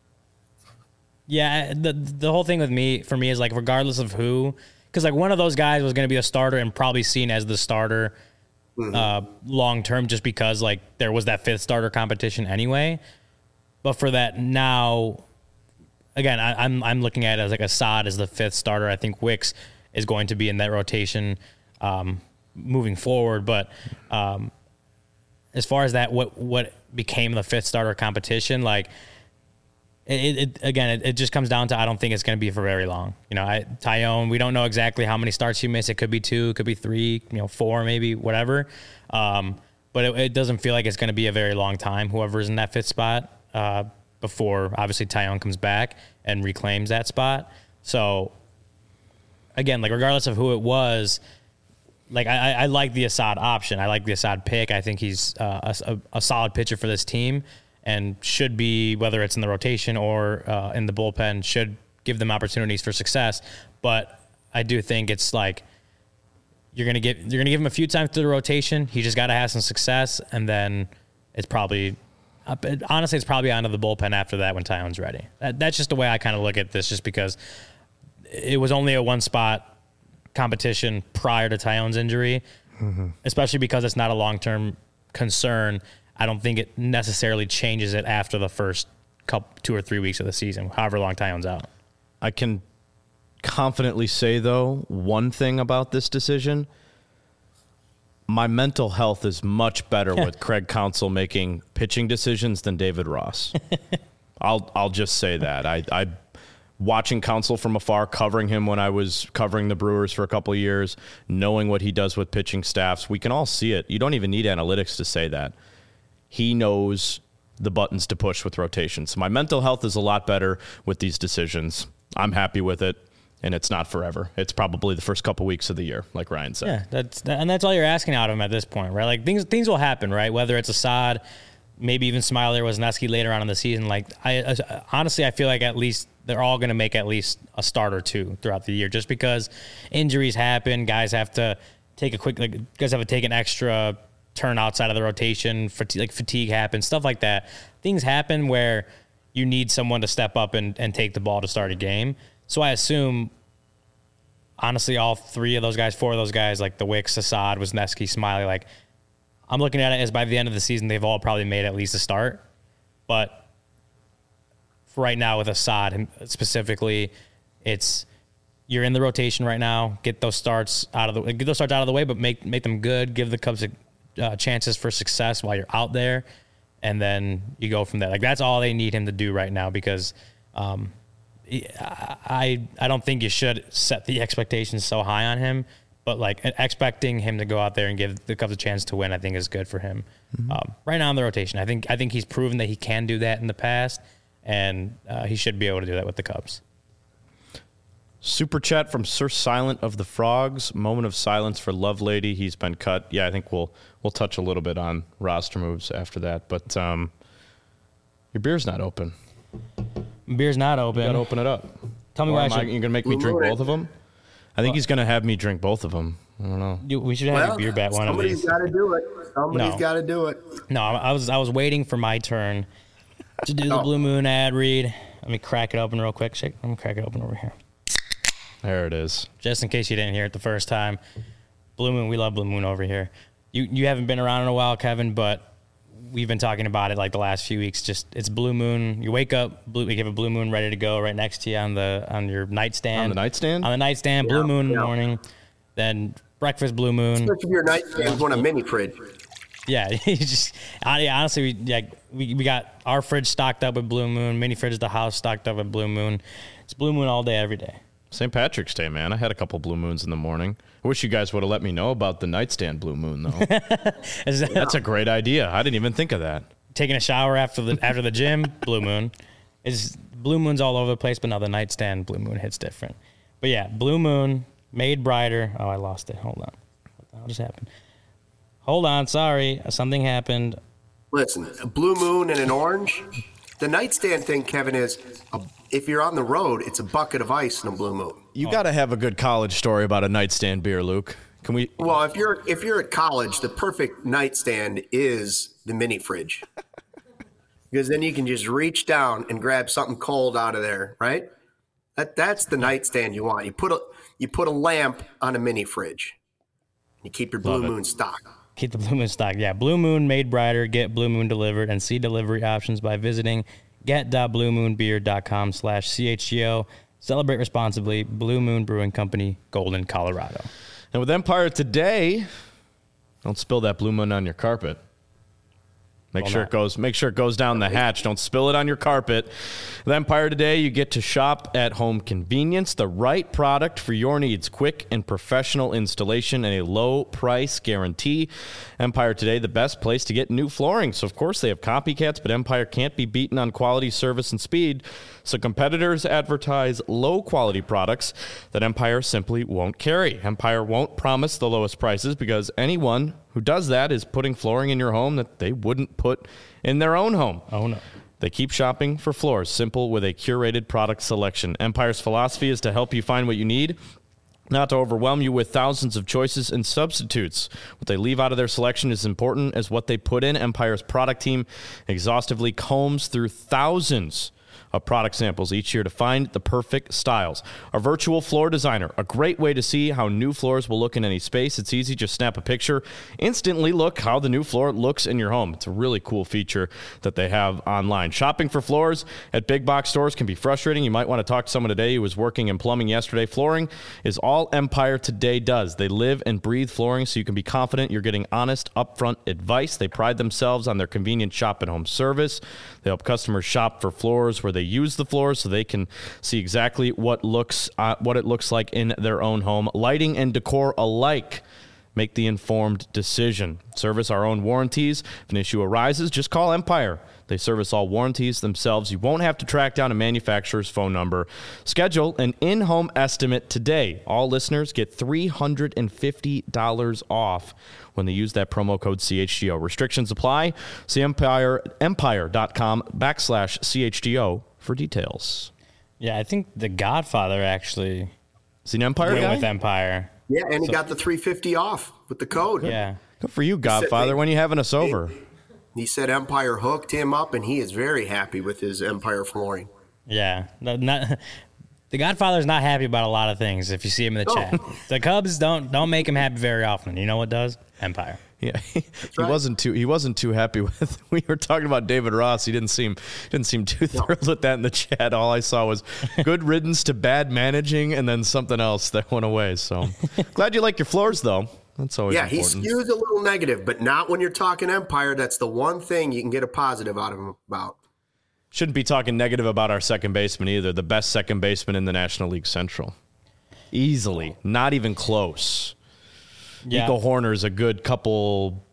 yeah, the the whole thing with me for me is like, regardless of who, because like one of those guys was going to be a starter and probably seen as the starter mm-hmm. uh, long term, just because like there was that fifth starter competition anyway. But for that now, again, I, I'm I'm looking at it as like Assad as the fifth starter. I think Wicks is going to be in that rotation um, moving forward, but. Um, As far as that, what what became the fifth starter competition, like it, it again, it, it just comes down to I don't think it's going to be for very long. You know, I, Tyone, we don't know exactly how many starts you miss. It could be two, it could be three, you know, four, maybe whatever. Um, but it, it doesn't feel like it's going to be a very long time. Whoever's in that fifth spot uh, before obviously Tyone comes back and reclaims that spot. So again, like regardless of who it was. Like, I, I like the Assad option. I like the Assad pick. I think he's uh, a, a solid pitcher for this team and should be, whether it's in the rotation or uh, in the bullpen, should give them opportunities for success. But I do think it's like you're gonna get you're gonna give him a few times through the rotation. He just got to have some success, and then it's probably honestly it's probably onto the bullpen after that when Tyone's ready. That, that's just the way I kind of look at this, just because it was only a one spot competition prior to Tyone's injury, mm-hmm. especially because it's not a long-term concern. I don't think it necessarily changes it after the first couple, two or three weeks of the season, however long Tyone's out. I can confidently say, though, one thing about this decision. My mental health is much better with Craig Counsell making pitching decisions than David Ross. I'll I'll just say that. I, I watching Counsell from afar, covering him when I was covering the Brewers for a couple of years, knowing what he does with pitching staffs, we can all see it. You don't even need analytics to say that. He knows the buttons to push with rotations. So my mental health is a lot better with these decisions. I'm happy with it, and it's not forever. It's probably the first couple weeks of the year, like Ryan said. Yeah, that's and that's all you're asking out of him at this point, right? Like things things will happen, right? Whether it's Assad, maybe even Smiley or Wisniewski later on in the season. Like I, I honestly, I feel like at least they're all going to make at least a start or two throughout the year, just because injuries happen. Guys have to take a quick, like guys have to take an extra turn outside of the rotation. Fatigue, like fatigue happens, stuff like that. Things happen where you need someone to step up and, and take the ball to start a game. So I assume, honestly, all three of those guys, four of those guys, like the Wicks, Assad, Wisniewski, Smiley, like I'm looking at it as by the end of the season, they've all probably made at least a start. But for right now with Assad specifically, it's you're in the rotation right now. Get those starts out of the get those starts out of the way, but make make them good. Give the Cubs uh, chances for success while you're out there, and then you go from there. Like that's all they need him to do right now because um, I I don't think you should set the expectations so high on him. But like expecting him to go out there and give the Cubs a chance to win, I think is good for him. Mm-hmm. Um, right now in the rotation, I think I think he's proven that he can do that in the past, and uh, he should be able to do that with the Cubs. Super chat from Sir Silent of the Frogs. Moment of silence for Lovelady. He's been cut. Yeah, I think we'll we'll touch a little bit on roster moves after that. But um, your beer's not open. Beer's not open. You gotta open it up. Tell me or why I am should. I, you're gonna make me drink both of them? I think Well, he's going to have me drink both of them. I don't know. You, we should have Well, a beer bet one of somebody's these. got to do it. Somebody's No. got to do it. No, I was I was waiting for my turn to do the Oh. Blue Moon ad read. Let me crack it open real quick. Shake. Let me crack it open over here, There it is. just in case you didn't hear it the first time. Blue Moon, we love Blue Moon over here. You you haven't been around in a while, Kevin, but we've been talking about it like the last few weeks. Just it's Blue Moon. You wake up, blue, we have a Blue Moon ready to go right next to you on the on your nightstand. On the nightstand? On the nightstand, Blue Yeah, Moon in the yeah. morning. Then breakfast, Blue Moon. Especially if your nightstand's one a mini fridge. Yeah, you just I- honestly, we, like we we got our fridge stocked up with Blue Moon, mini fridge at the house stocked up with Blue Moon. It's Blue Moon all day, every day. Saint Patrick's Day, man. I had a couple Blue Moons in the morning. I wish you guys would have let me know about the nightstand Blue Moon, though. Is that- That's a great idea. I didn't even think of that. Taking a shower after the after the gym, Blue Moon. Is Blue Moon's all over the place, but now the nightstand Blue Moon hits different. But yeah, Blue Moon made brighter. Oh, I lost it. Hold on. What the hell just happened? Hold on. Sorry, something happened. Listen, a blue moon and an orange. The nightstand thing, Kevin, is a, if you're on the road, it's a bucket of ice and a blue moon. You got to have a good college story about a nightstand beer, Luke. Can we? Well, if you're if you're at college, the perfect nightstand is the mini fridge. Because then you can just reach down and grab something cold out of there, right? That that's the nightstand you want. You put a you put a lamp on a mini fridge. You keep your blue Love it. moon stocked. Keep the Blue Moon stock. Yeah, Blue Moon made brighter. Get Blue Moon delivered and see delivery options by visiting get.bluemoonbeer.com slash CHGO. Celebrate responsibly. Blue Moon Brewing Company, Golden, Colorado. And with Empire today, don't spill that Blue Moon on your carpet. Make Will sure not. it goes. Make sure it goes down the hatch. Don't spill it on your carpet. With Empire today, you get to shop at home convenience, the right product for your needs, quick and professional installation, and a low price guarantee. Empire today, the best place to get new flooring. So of course they have copycats, but Empire can't be beaten on quality, service, and speed. So competitors advertise low quality products that Empire simply won't carry. Empire won't promise the lowest prices because anyone who does that is putting flooring in your home that they wouldn't put in their own home. Oh, no. They keep shopping for floors, simple with a curated product selection. Empire's philosophy is to help you find what you need, not to overwhelm you with thousands of choices and substitutes. What they leave out of their selection is as important as what they put in. Empire's product team exhaustively combs through thousands of product samples each year to find the perfect styles. Our virtual floor designer, a great way to see how new floors will look in any space. It's easy, just snap a picture, instantly look how the new floor looks in your home. It's a really cool feature that they have online. Shopping for floors at big box stores can be frustrating. You might want to talk to someone today who was working in plumbing yesterday. Flooring is all Empire today does. They live and breathe flooring, so you can be confident you're getting honest, upfront advice. They pride themselves on their convenient shop and home service. They help customers shop for floors where they use the floors so they can see exactly what looks uh, what it looks like in their own home. Lighting and decor alike. Make the informed decision. Service our own warranties. If an issue arises, just call Empire. They service all warranties themselves. You won't have to track down a manufacturer's phone number. Schedule an in-home estimate today. All listeners get three hundred fifty dollars off when they use that promo code C H G O. Restrictions apply. See Empire, empire.com backslash C H G O for details. Yeah, I think The Godfather actually is he an Empire went guy? with Empire. Yeah, and he So- got the three fifty off with the code. Yeah. Good for you, Godfather, when you having us over. He said Empire hooked him up, and he is very happy with his Empire flooring. Yeah. No, not, the Godfather's not happy about a lot of things if you see him in the No. chat. The Cubs don't don't make him happy very often. You know what does? Empire. Yeah, he, he right. wasn't too he wasn't too happy with. We were talking about David Ross. He didn't seem didn't seem too thrilled with that in the chat. All I saw was good riddance to bad managing, and then something else that went away. So glad you like your floors, though. That's always Yeah, he important. skews a little negative, but not when you're talking Empire. That's the one thing you can get a positive out of him about. Shouldn't be talking negative about our second baseman either. The best second baseman in the National League Central, easily, not even close. Yeah. Nico Horner's a good couple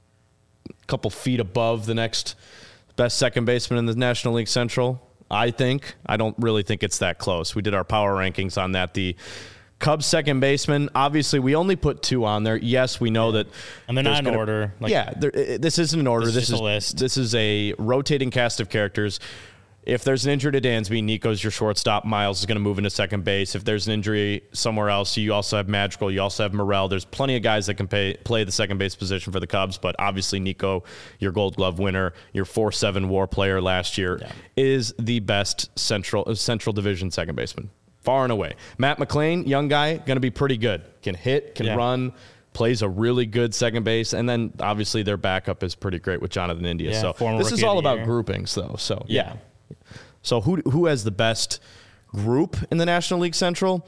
couple feet above the next best second baseman in the National League Central, I think. I don't really think it's that close. We did our power rankings on that. The Cubs second baseman, obviously we only put two on there. Yes, we know that. And they're there's not in gonna- order. Like, yeah, there, uh, this isn't an order. This is This just is a list. This is a rotating cast of characters. If there's an injury to Dansby, Nico's your shortstop. Miles is going to move into second base. If there's an injury somewhere else, you also have Madrigal. You also have Morel. There's plenty of guys that can pay, play the second base position for the Cubs, but obviously Nico, your Gold Glove winner, your four seven WAR player last year, Yeah. is the best Central uh, Central Division second baseman, far and away. Matt McClain, young guy, going to be pretty good. Can hit, can Yeah. run, plays a really good second base, and then obviously their backup is pretty great with Jonathan India. Yeah, so former this is Rookie of all the about Year. groupings, though. So yeah. Yeah. So who who has the best group in the National League Central?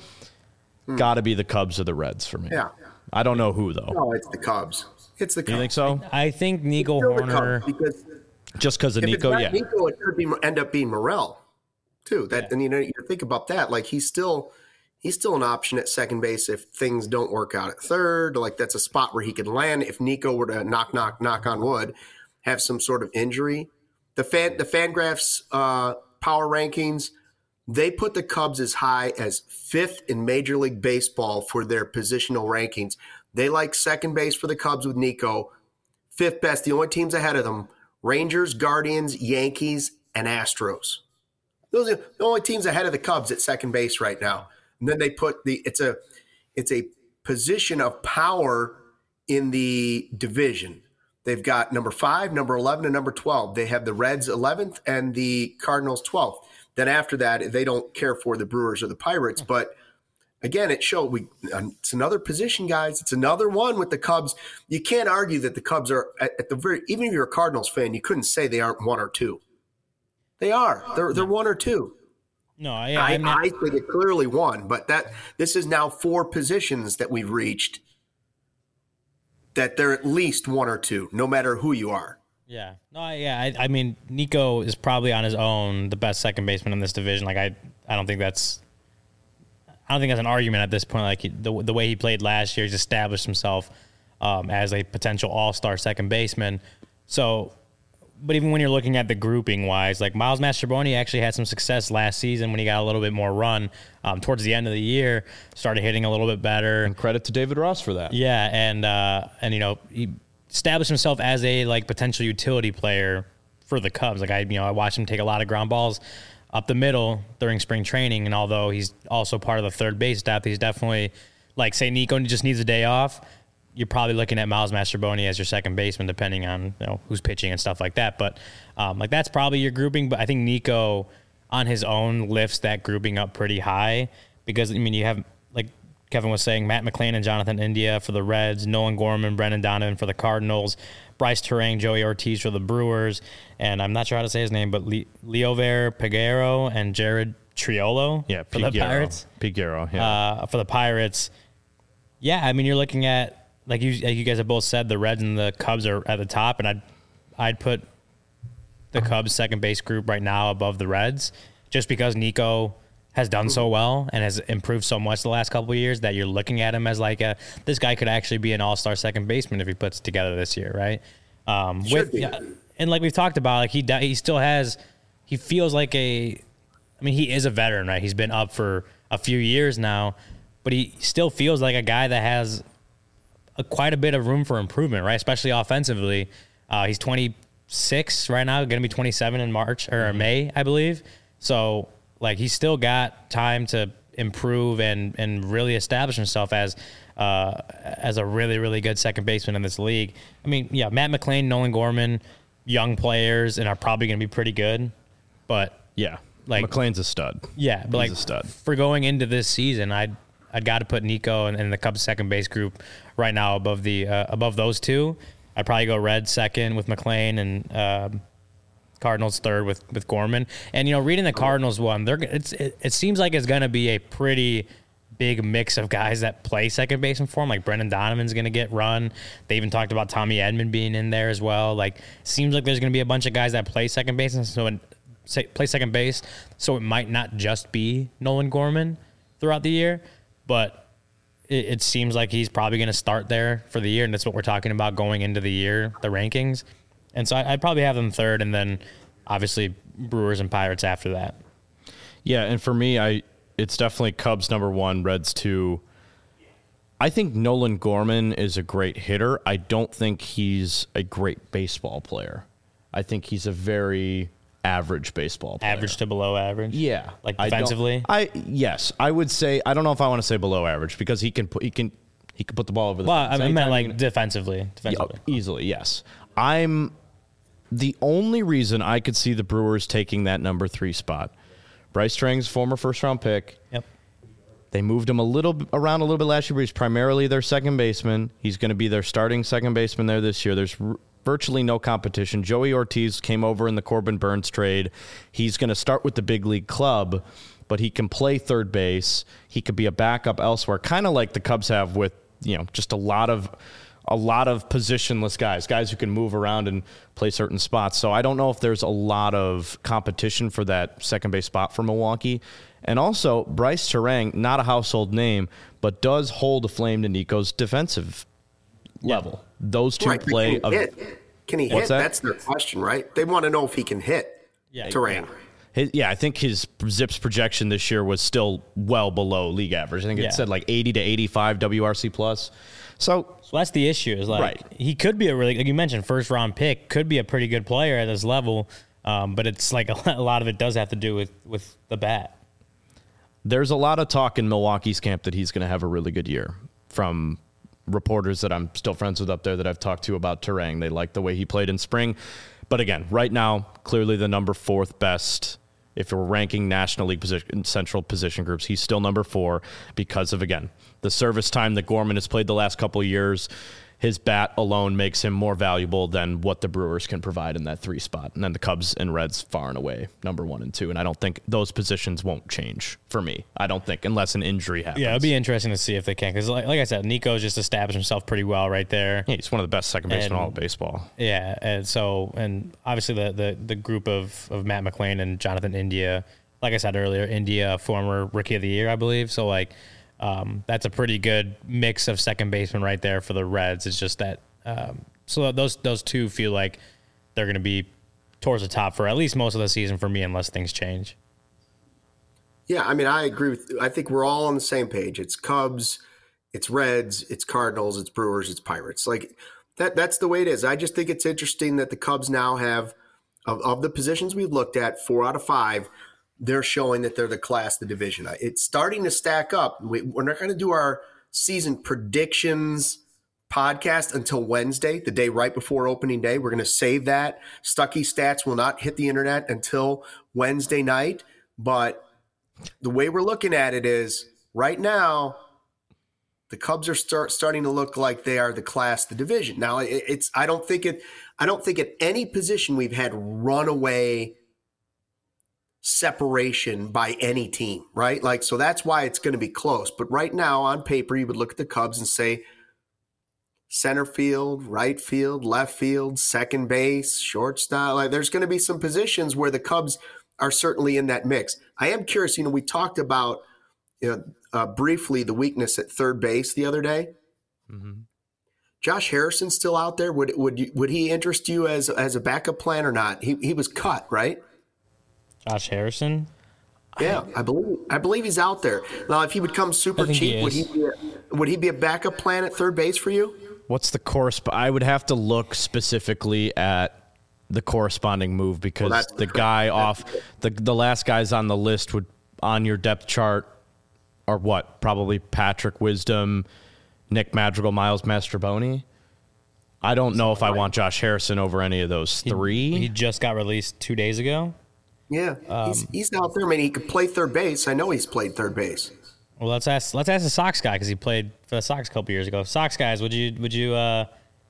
Got to be the Cubs or the Reds for me. Yeah. I don't know who though. No, it's the Cubs. It's the Cubs. You think so? I think Nico Still the Horner. Cubs, because Just because of if Nico, it's yeah. not Nico, it could be end up being Morel, too. That and you know you think about that, like he's still he's still an option at second base if things don't work out at third. Like that's a spot where he could land if Nico were to knock knock knock on wood, have some sort of injury. The fan the Fangraphs uh, power rankings, they put the Cubs as high as fifth in Major League Baseball for their positional rankings. They like second base for the Cubs with Nico. Fifth best. The only teams ahead of them: Rangers, Guardians, Yankees, and Astros. Those are the only teams ahead of the Cubs at second base right now. And then they put the it's a it's a position of power in the division. They've got number five, number eleven, and number twelve. They have the Reds eleventh and the Cardinals twelfth. Then after that, they don't care for the Brewers or the Pirates. But again, it showed we it's another position, guys. It's another one with the Cubs. You can't argue that the Cubs are at, at the very even if you're a Cardinals fan, you couldn't say they aren't one or two. They are. They're they're one or two. No, I, I, I'm not, I think it clearly won, but that this is now four positions that we've reached that they're at least one or two, no matter who you are. yeah, no, I- yeah. I, I mean, Nico is probably on his own the best second baseman in this division. Like, I, I don't think that's, I don't think that's an argument at this point. Like he, the the way he played last year, he's established himself um, as a potential all-star second baseman. So, but even when you're looking at the grouping wise, like Miles Mastrobuoni actually had some success last season when he got a little bit more run um, towards the end of the year, started hitting a little bit better. And credit to David Ross for that. Yeah, and uh, and you know he established himself as a like potential utility player for the Cubs. Like I, you know, I watched him take a lot of ground balls up the middle during spring training, and although he's also part of the third base staff, he's definitely like say Nico just needs a day off. You're probably looking at Miles Mastrobuoni as your second baseman, depending on you know who's pitching and stuff like that. But um, like that's probably your grouping. But I think Nico on his own lifts that grouping up pretty high because, I mean, you have, like Kevin was saying, Matt McClain and Jonathan India for the Reds, Nolan Gorman, Brendan Donovan for the Cardinals, Bryce Terang, Joey Ortiz for the Brewers, and I'm not sure how to say his name, but Le- Leover Peguero and Jared Triolo yeah, for the Pirates. Peguero, yeah. Uh, for the Pirates. Yeah, I mean, you're looking at, like you, like you guys have both said, the Reds and the Cubs are at the top, and I'd, I'd put the Cubs second base group right now above the Reds, just because Nico has done so well and has improved so much the last couple of years that you're looking at him as like a, this guy could actually be an all-star second baseman if he puts it together this year, right? Um, with yeah, and like we've talked about, like he he still has, he feels like a, I mean, he is a veteran, right? He's been up for a few years now, but he still feels like a guy that has a, quite a bit of room for improvement, right? Especially offensively. Uh, he's twenty-six right now, going to be twenty-seven in March or May, I believe. So, like, he's still got time to improve and and really establish himself as uh, as a really, really good second baseman in this league. I mean, yeah, Matt McClain, Nolan Gorman, young players, and are probably going to be pretty good. But yeah, like McClain's a stud. Yeah, but He's like a stud. For going into this season, I'd I'd got to put Nico and, and the Cubs second base group right now above the uh, above those two. I'd probably go Reds second with McClain and um, Cardinals third with, with Gorman. And, you know, reading the Cardinals one, they're it's it, it seems like it's going to be a pretty big mix of guys that play second baseman for him. Like Brendan Donovan's going to get run. They even talked about Tommy Edman being in there as well. Like, seems like there's going to be a bunch of guys that play second base, and so it, say, play second base. So it might not just be Nolan Gorman throughout the year, but it, it seems like he's probably going to start there for the year, and that's what we're talking about going into the year, the rankings. And so I'd probably have them third, and then obviously Brewers and Pirates after that. Yeah, and for me, I it's definitely Cubs number one, Reds two. I think Nolan Gorman is a great hitter. I don't think he's a great baseball player. I think he's a very average baseball player. Average to below average? Yeah. Like defensively? I, I yes, I would say, I don't know if I want to say below average because he can put he can he can put the ball over the Well, fence. I meant like Anytime- defensively. Defensively. Yeah, easily, yes. I'm the only reason I could see the Brewers taking that number three spot. Bryce Terang's former first round pick. Yep. They moved him a little around a little bit last year, but he's primarily their second baseman. He's going to be their starting second baseman there this year. There's r- virtually no competition. Joey Ortiz came over in the Corbin Burns trade. He's going to start with the big league club, but he can play third base. He could be a backup elsewhere, kind of like the Cubs have with, you know, just a lot of a lot of positionless guys, guys who can move around and play certain spots. So I don't know if there's a lot of competition for that second base spot for Milwaukee. And also, Bryce Terang, not a household name, but does hold a flame to Nico's defensive level. Those two Right, but play. Can he a, hit? Can he What's hit? that? That's their question, right? They want to know if he can hit. Yeah. Terang. his, yeah, I think his Zips projection this year was still well below league average. I think it Yeah. said like eighty to eighty-five W R C plus. So So that's the issue. Is like Right. he could be a really, like you mentioned, first round pick, could be a pretty good player at this level, um, but it's like a lot of it does have to do with with the bat. there's a lot of talk in Milwaukee's camp that he's going to have a really good year from reporters that I'm still friends with up there that I've talked to about Terang. They like the way he played in spring. But again, right now, clearly the number fourth best. If we're ranking National League position, central position groups, he's still number four because of, again, the service time that Gorman has played the last couple of years. His bat alone makes him more valuable than what the Brewers can provide in that three spot. And then the Cubs and Reds far and away, number one and two. And I don't think those positions won't change for me. I don't think, unless an injury happens. Yeah, it'll be interesting to see if they can. Because, like, like I said, Nico's just established himself pretty well right there. Yeah, he's one of the best second basemen in all of And- baseball. Yeah, and so, and obviously the the, the group of, of Matt McClain and Jonathan India, like I said earlier, India, former Rookie of the Year, I believe. So, like, um, that's a pretty good mix of second baseman right there for the Reds. It's just that, um, so those those two feel like they're going to be towards the top for at least most of the season for me, unless things change. Yeah, I mean, I agree with. I think we're all on the same page. It's Cubs, it's Reds, it's Cardinals, it's Brewers, it's Pirates. Like that. That's the way it is. I just think it's interesting that the Cubs now have, of, of the positions we've looked at, four out of five, they're showing that they're the class of the division. It's starting to stack up. We, we're not going to do our season predictions podcast until Wednesday, the day right before opening day. We're going to save that. Stuckey stats will not hit the internet until Wednesday night. But the way we're looking at it is right now, the Cubs are start starting to look like they are the class, the division. Now it, it's I don't think it I don't think at any position we've had runaway separation by any team, right? Like, so that's why it's going to be close. But right now on paper, you would look at the Cubs and say center field, right field, left field, second base, shortstop. Like, there's going to be some positions where the Cubs are certainly in that mix. I am curious, you know, we talked about you know, uh, briefly the weakness at third base the other day. Mm-hmm. Josh Harrison still out there? Would would you, would he interest you as as a backup plan or not? He he was cut, right? Josh Harrison? Yeah, I, I believe I believe he's out there. Now, if he would come super cheap, he would he be a, would he be a backup plan at third base for you? What's the course? I would have to look specifically at the corresponding move because well, the guy off the the last guys on the list would on your depth chart are what? Probably Patrick Wisdom, Nick Madrigal, Miles Mastrobuoni. I don't know if I want Josh Harrison over any of those three. He, he just got released two days ago. Yeah, um, he's, he's out there. I mean, he could play third base. I know he's played third base. Well, let's ask let's ask the Sox guy because he played for the Sox a couple years ago. Sox guys, would you would you uh,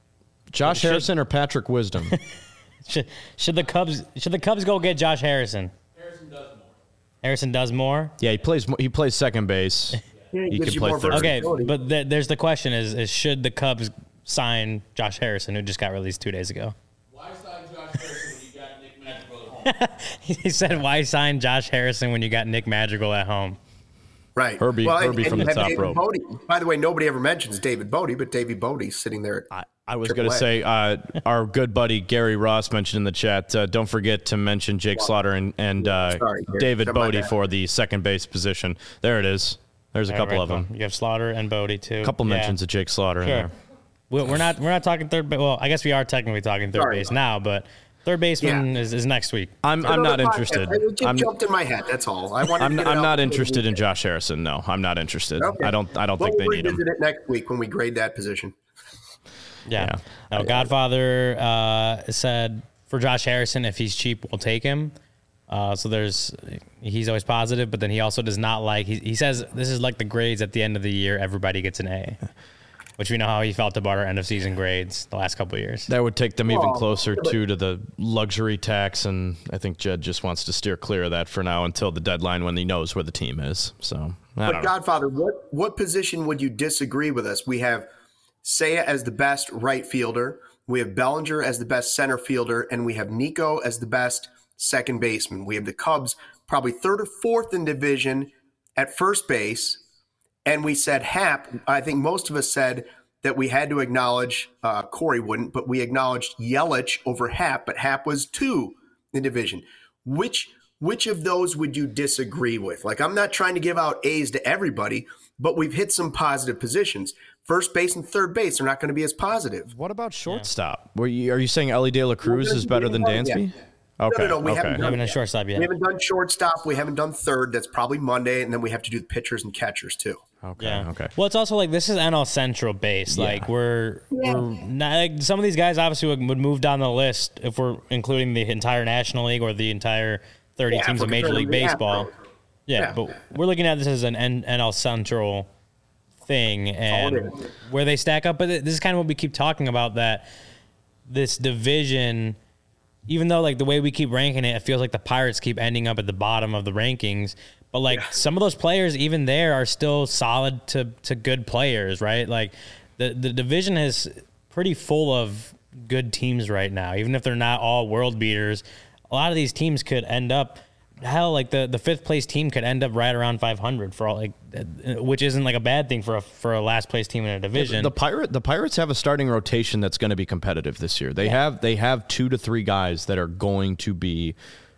Josh should, Harrison or Patrick Wisdom? should should the Cubs should the Cubs go get Josh Harrison? Harrison does more. Harrison does more. Yeah, he plays he plays second base. Yeah, he he can play third. Okay, but th- there's the question: is is should the Cubs sign Josh Harrison, who just got released two days ago? Why sign Josh Harrison when you got Nick Madrigal at home? He said, "Why sign Josh Harrison when you got Nick Madrigal at home?" Right, Herbie, well, Herbie and, from and the top David rope. Bodie. By the way, nobody ever mentions David Bodie, but David Bodie's sitting there. I, I was going to say, uh, our good buddy Gary Ross mentioned in the chat. Uh, don't forget to mention Jake Slaughter and and uh, Sorry, David Bodie for the second base position. There it is. There's a All couple right, of them. You have Slaughter and Bodie too. A couple Yeah. mentions of Jake Slaughter Sure. in there. We- We're not we're not talking third base. Well, I guess we are technically talking third Sorry. base now, but third baseman Yeah. is, is next week. I'm I'm not Another podcast. interested. It just I'm jumped in my head. That's all. I wanted I'm, to get it I'm out not before interested we- in Josh Harrison. No, I'm not interested. Okay. I don't I don't Well, think they we'll need him. revisit it next week when we grade that position. Yeah. Yeah. Now, Godfather uh, said for Josh Harrison, if he's cheap, we'll take him. Uh, so there's, he's always positive, but then he also does not like, he, he says this is like the grades at the end of the year, everybody gets an A, which we know how he felt about our end of season grades the last couple of years. That would take them even Well, closer but- too to the luxury tax, and I think Jed just wants to steer clear of that for now until the deadline when he knows where the team is. So, I But don't know. Godfather, what what position would you disagree with us? We have Seiya as the best right fielder. We have Bellinger as the best center fielder, and we have Nico as the best second baseman. We have the Cubs probably third or fourth in division at first base. And we said Hap, I think most of us said that we had to acknowledge, uh, Corey wouldn't, but we acknowledged Yelich over Hap, but Hap was two in division. Which which of those would you disagree with? Like, I'm not trying to give out A's to everybody, but we've hit some positive positions. First base and third base are not going to be as positive. What about shortstop? Were you, are you saying Ellie De La Cruz is better than Dansby? Okay. No, no, no, we okay. haven't We done haven't done shortstop yet. We haven't done shortstop. We haven't done third. That's probably Monday, and then we have to do the pitchers and catchers too. Okay. Yeah. Okay. Well, it's also like this is N L Central based. Yeah. Like we're we're not, like, some of these guys obviously would, would move down the list if we're including the entire National League or the entire thirty Yeah, teams if of we're Major comparing League the Baseball. Astros. Yeah, Yeah. but we're looking at this as an N- NL Central thing and all it is. where they stack up. But this is kind of what we keep talking about, that this division, even though like the way we keep ranking it, it feels like the Pirates keep ending up at the bottom of the rankings. But like Yeah. some of those players, even there, are still solid to to good players, right? Like the the division is pretty full of good teams right now, even if they're not all world beaters. A lot of these teams could end up, hell, like the, the fifth place team could end up right around five hundred for all, like, which isn't like a bad thing for a for a last place team in a division. The pirate the Pirates have a starting rotation that's going to be competitive this year. They have they have two to three guys that are going to be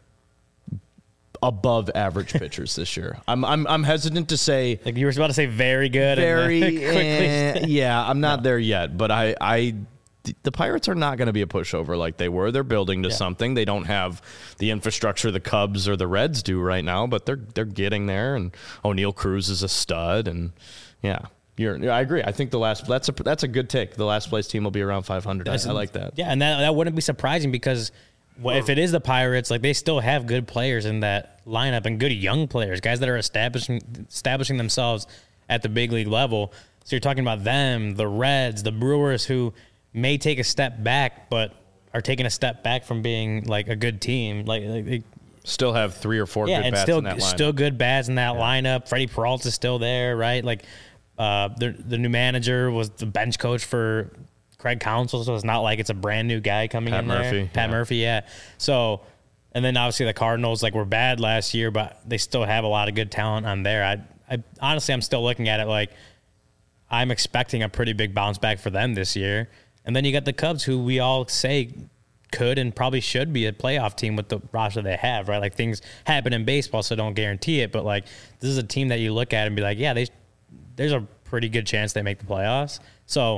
above average pitchers this year. I'm I'm I'm hesitant to say like you were about to say very good. very and then quickly. eh, yeah, I'm not there yet, but I I the Pirates are not going to be a pushover like they were. They're building to Yeah. something. They don't have the infrastructure the Cubs or the Reds do right now, but they're they're getting there. And O'Neal Cruz is a stud, and yeah, you're. Yeah, I agree. I think the last that's a that's a good take. The last place team will be around five hundred. I, I like that. Yeah, and that that wouldn't be surprising because well, if it is the Pirates, like they still have good players in that lineup and good young players, guys that are establishing establishing themselves at the big league level. So you're talking about them, the Reds, the Brewers, who may take a step back, but are taking a step back from being like a good team. Like, like they, Still have three or four yeah, good and bats still in that lineup. still good bats in that yeah. lineup. Freddie Peralta's still there, right? Like uh, the the new manager was the bench coach for Craig Counsell, so it's not like it's a brand new guy coming Pat in Murphy, there. Pat yeah. Murphy, yeah. So, and then obviously the Cardinals like were bad last year, but they still have a lot of good talent on there. I, I honestly, I'm still looking at it like I'm expecting a pretty big bounce back for them this year. And then you got the Cubs, who we all say could and probably should be a playoff team with the roster they have, right? Like things happen in baseball, so don't guarantee it. But like this is a team that you look at and be like, yeah, they there's a pretty good chance they make the playoffs. So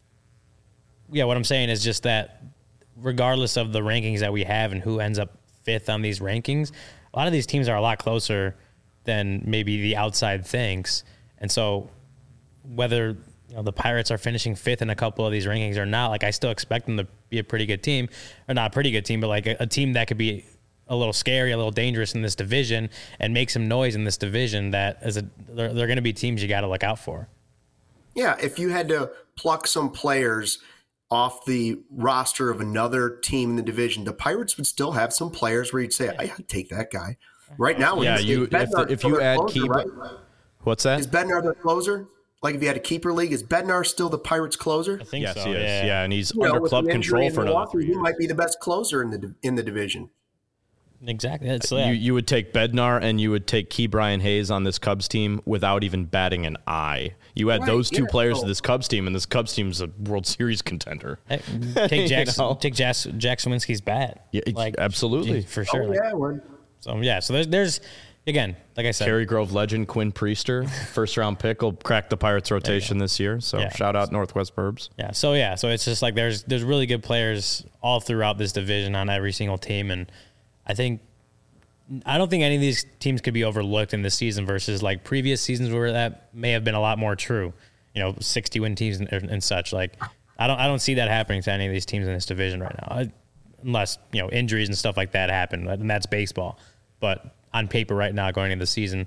yeah, what I'm saying is just that regardless of the rankings that we have and who ends up fifth on these rankings, a lot of these teams are a lot closer than maybe the outside thinks. And so whether you know, the Pirates are finishing fifth in a couple of these rankings or not, like I still expect them to be a pretty good team, or not a pretty good team, but like a, a team that could be a little scary, a little dangerous in this division and make some noise in this division. That is a, they're, they're going to be teams you got to look out for. Yeah. If you had to pluck some players off the roster of another team in the division, the Pirates would still have some players where you'd say, I, I'd take that guy right now. Yeah. You, if, the, if you add closer, Keep, right? What's that? Is Bednar the closer? Like if you had a keeper league, is Bednar still the Pirates closer? I think yes, so. he is. Yeah. yeah, and he's you under know, club control for another three He years. might be the best closer in the in the division. Exactly. That's, yeah. You you would take Bednar and you would take Key Brian Hayes on this Cubs team without even batting an eye. You add Right, those two yeah, players so- to this Cubs team, and this Cubs team's a World Series contender. Hey, take Jack, You know? take Jack, Jack Swinski's bat. Yeah, absolutely. for sure. Oh, Like, yeah, we're, so yeah, so there's there's again, like I said, Cary Grove legend Quinn Priester, first round pick, will crack the Pirates rotation this year. So Yeah. shout out Northwest Burbs. yeah. So yeah, so it's just like there's there's really good players all throughout this division on every single team, and I think I don't think any of these teams could be overlooked in this season versus like previous seasons where that may have been a lot more true. You know, sixty win teams and, and such. Like I don't I don't see that happening to any of these teams in this division right now, I, unless you know injuries and stuff like that happen, and that's baseball. But on paper right now, going into the season,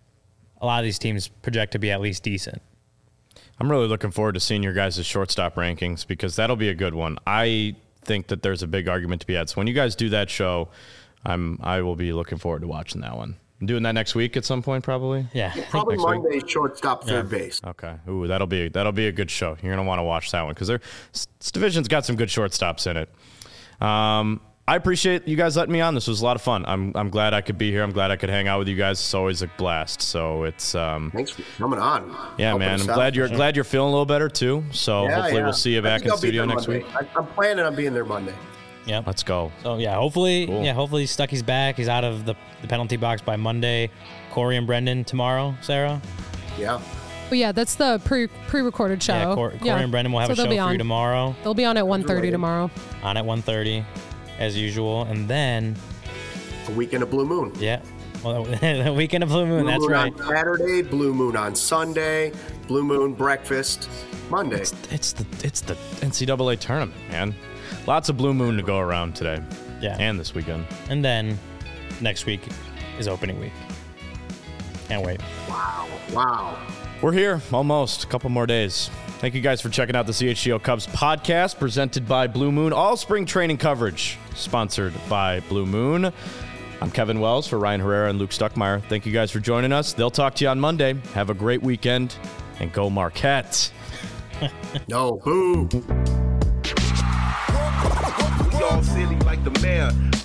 a lot of these teams project to be at least decent. I'm really looking forward to seeing your guys' shortstop rankings because that'll be a good one. I think that there's a big argument to be had. So when you guys do that show, I'm I will be looking forward to watching that one. I'm doing that next week at some point, probably. Yeah, probably next week. Monday, shortstop, third Yeah. base. Okay. Ooh, that'll be that'll be a good show. You're gonna want to watch that one because this division's got some good shortstops in it. Um, I appreciate you guys letting me on. This was a lot of fun. I'm I'm glad I could be here. I'm glad I could hang out with you guys. It's always a blast. So it's um, Thanks for coming on. yeah, Helping man. us I'm out. glad you're glad you're feeling a little better too. So Yeah, hopefully yeah. we'll see you I back think in I'll be studio there next Monday. week. I, I'm planning on being there Monday. yeah. Let's go. So yeah, hopefully, Cool. yeah, hopefully Stucky's back. He's out of the, the penalty box by Monday. Corey and Brendan tomorrow. Sarah. Yeah. But yeah, that's the pre pre recorded show. Yeah, Cor- Corey and Brendan will have So a show they'll be for on. you tomorrow. They'll be on at one thirty tomorrow. On at one thirty, as usual, and then A weekend of Blue Moon. yeah, well, the weekend of Blue Moon. Blue that's Moon right. on Saturday, Blue Moon on Sunday, Blue Moon breakfast Monday. It's, it's the it's the N C double A tournament, man. Lots of blue moon to go around today. Yeah. And this weekend. And then next week is opening week. Can't wait. Wow. Wow. We're here almost. A couple more days. Thank you guys for checking out the C H G O Cubs podcast presented by Blue Moon. All spring training coverage sponsored by Blue Moon. I'm Kevin Wells for Ryan Herrera and Luke Stuckmeyer. Thank you guys for joining us. They'll talk to you on Monday. Have a great weekend and go Marquette. No, boo. Y'all silly like the mayor.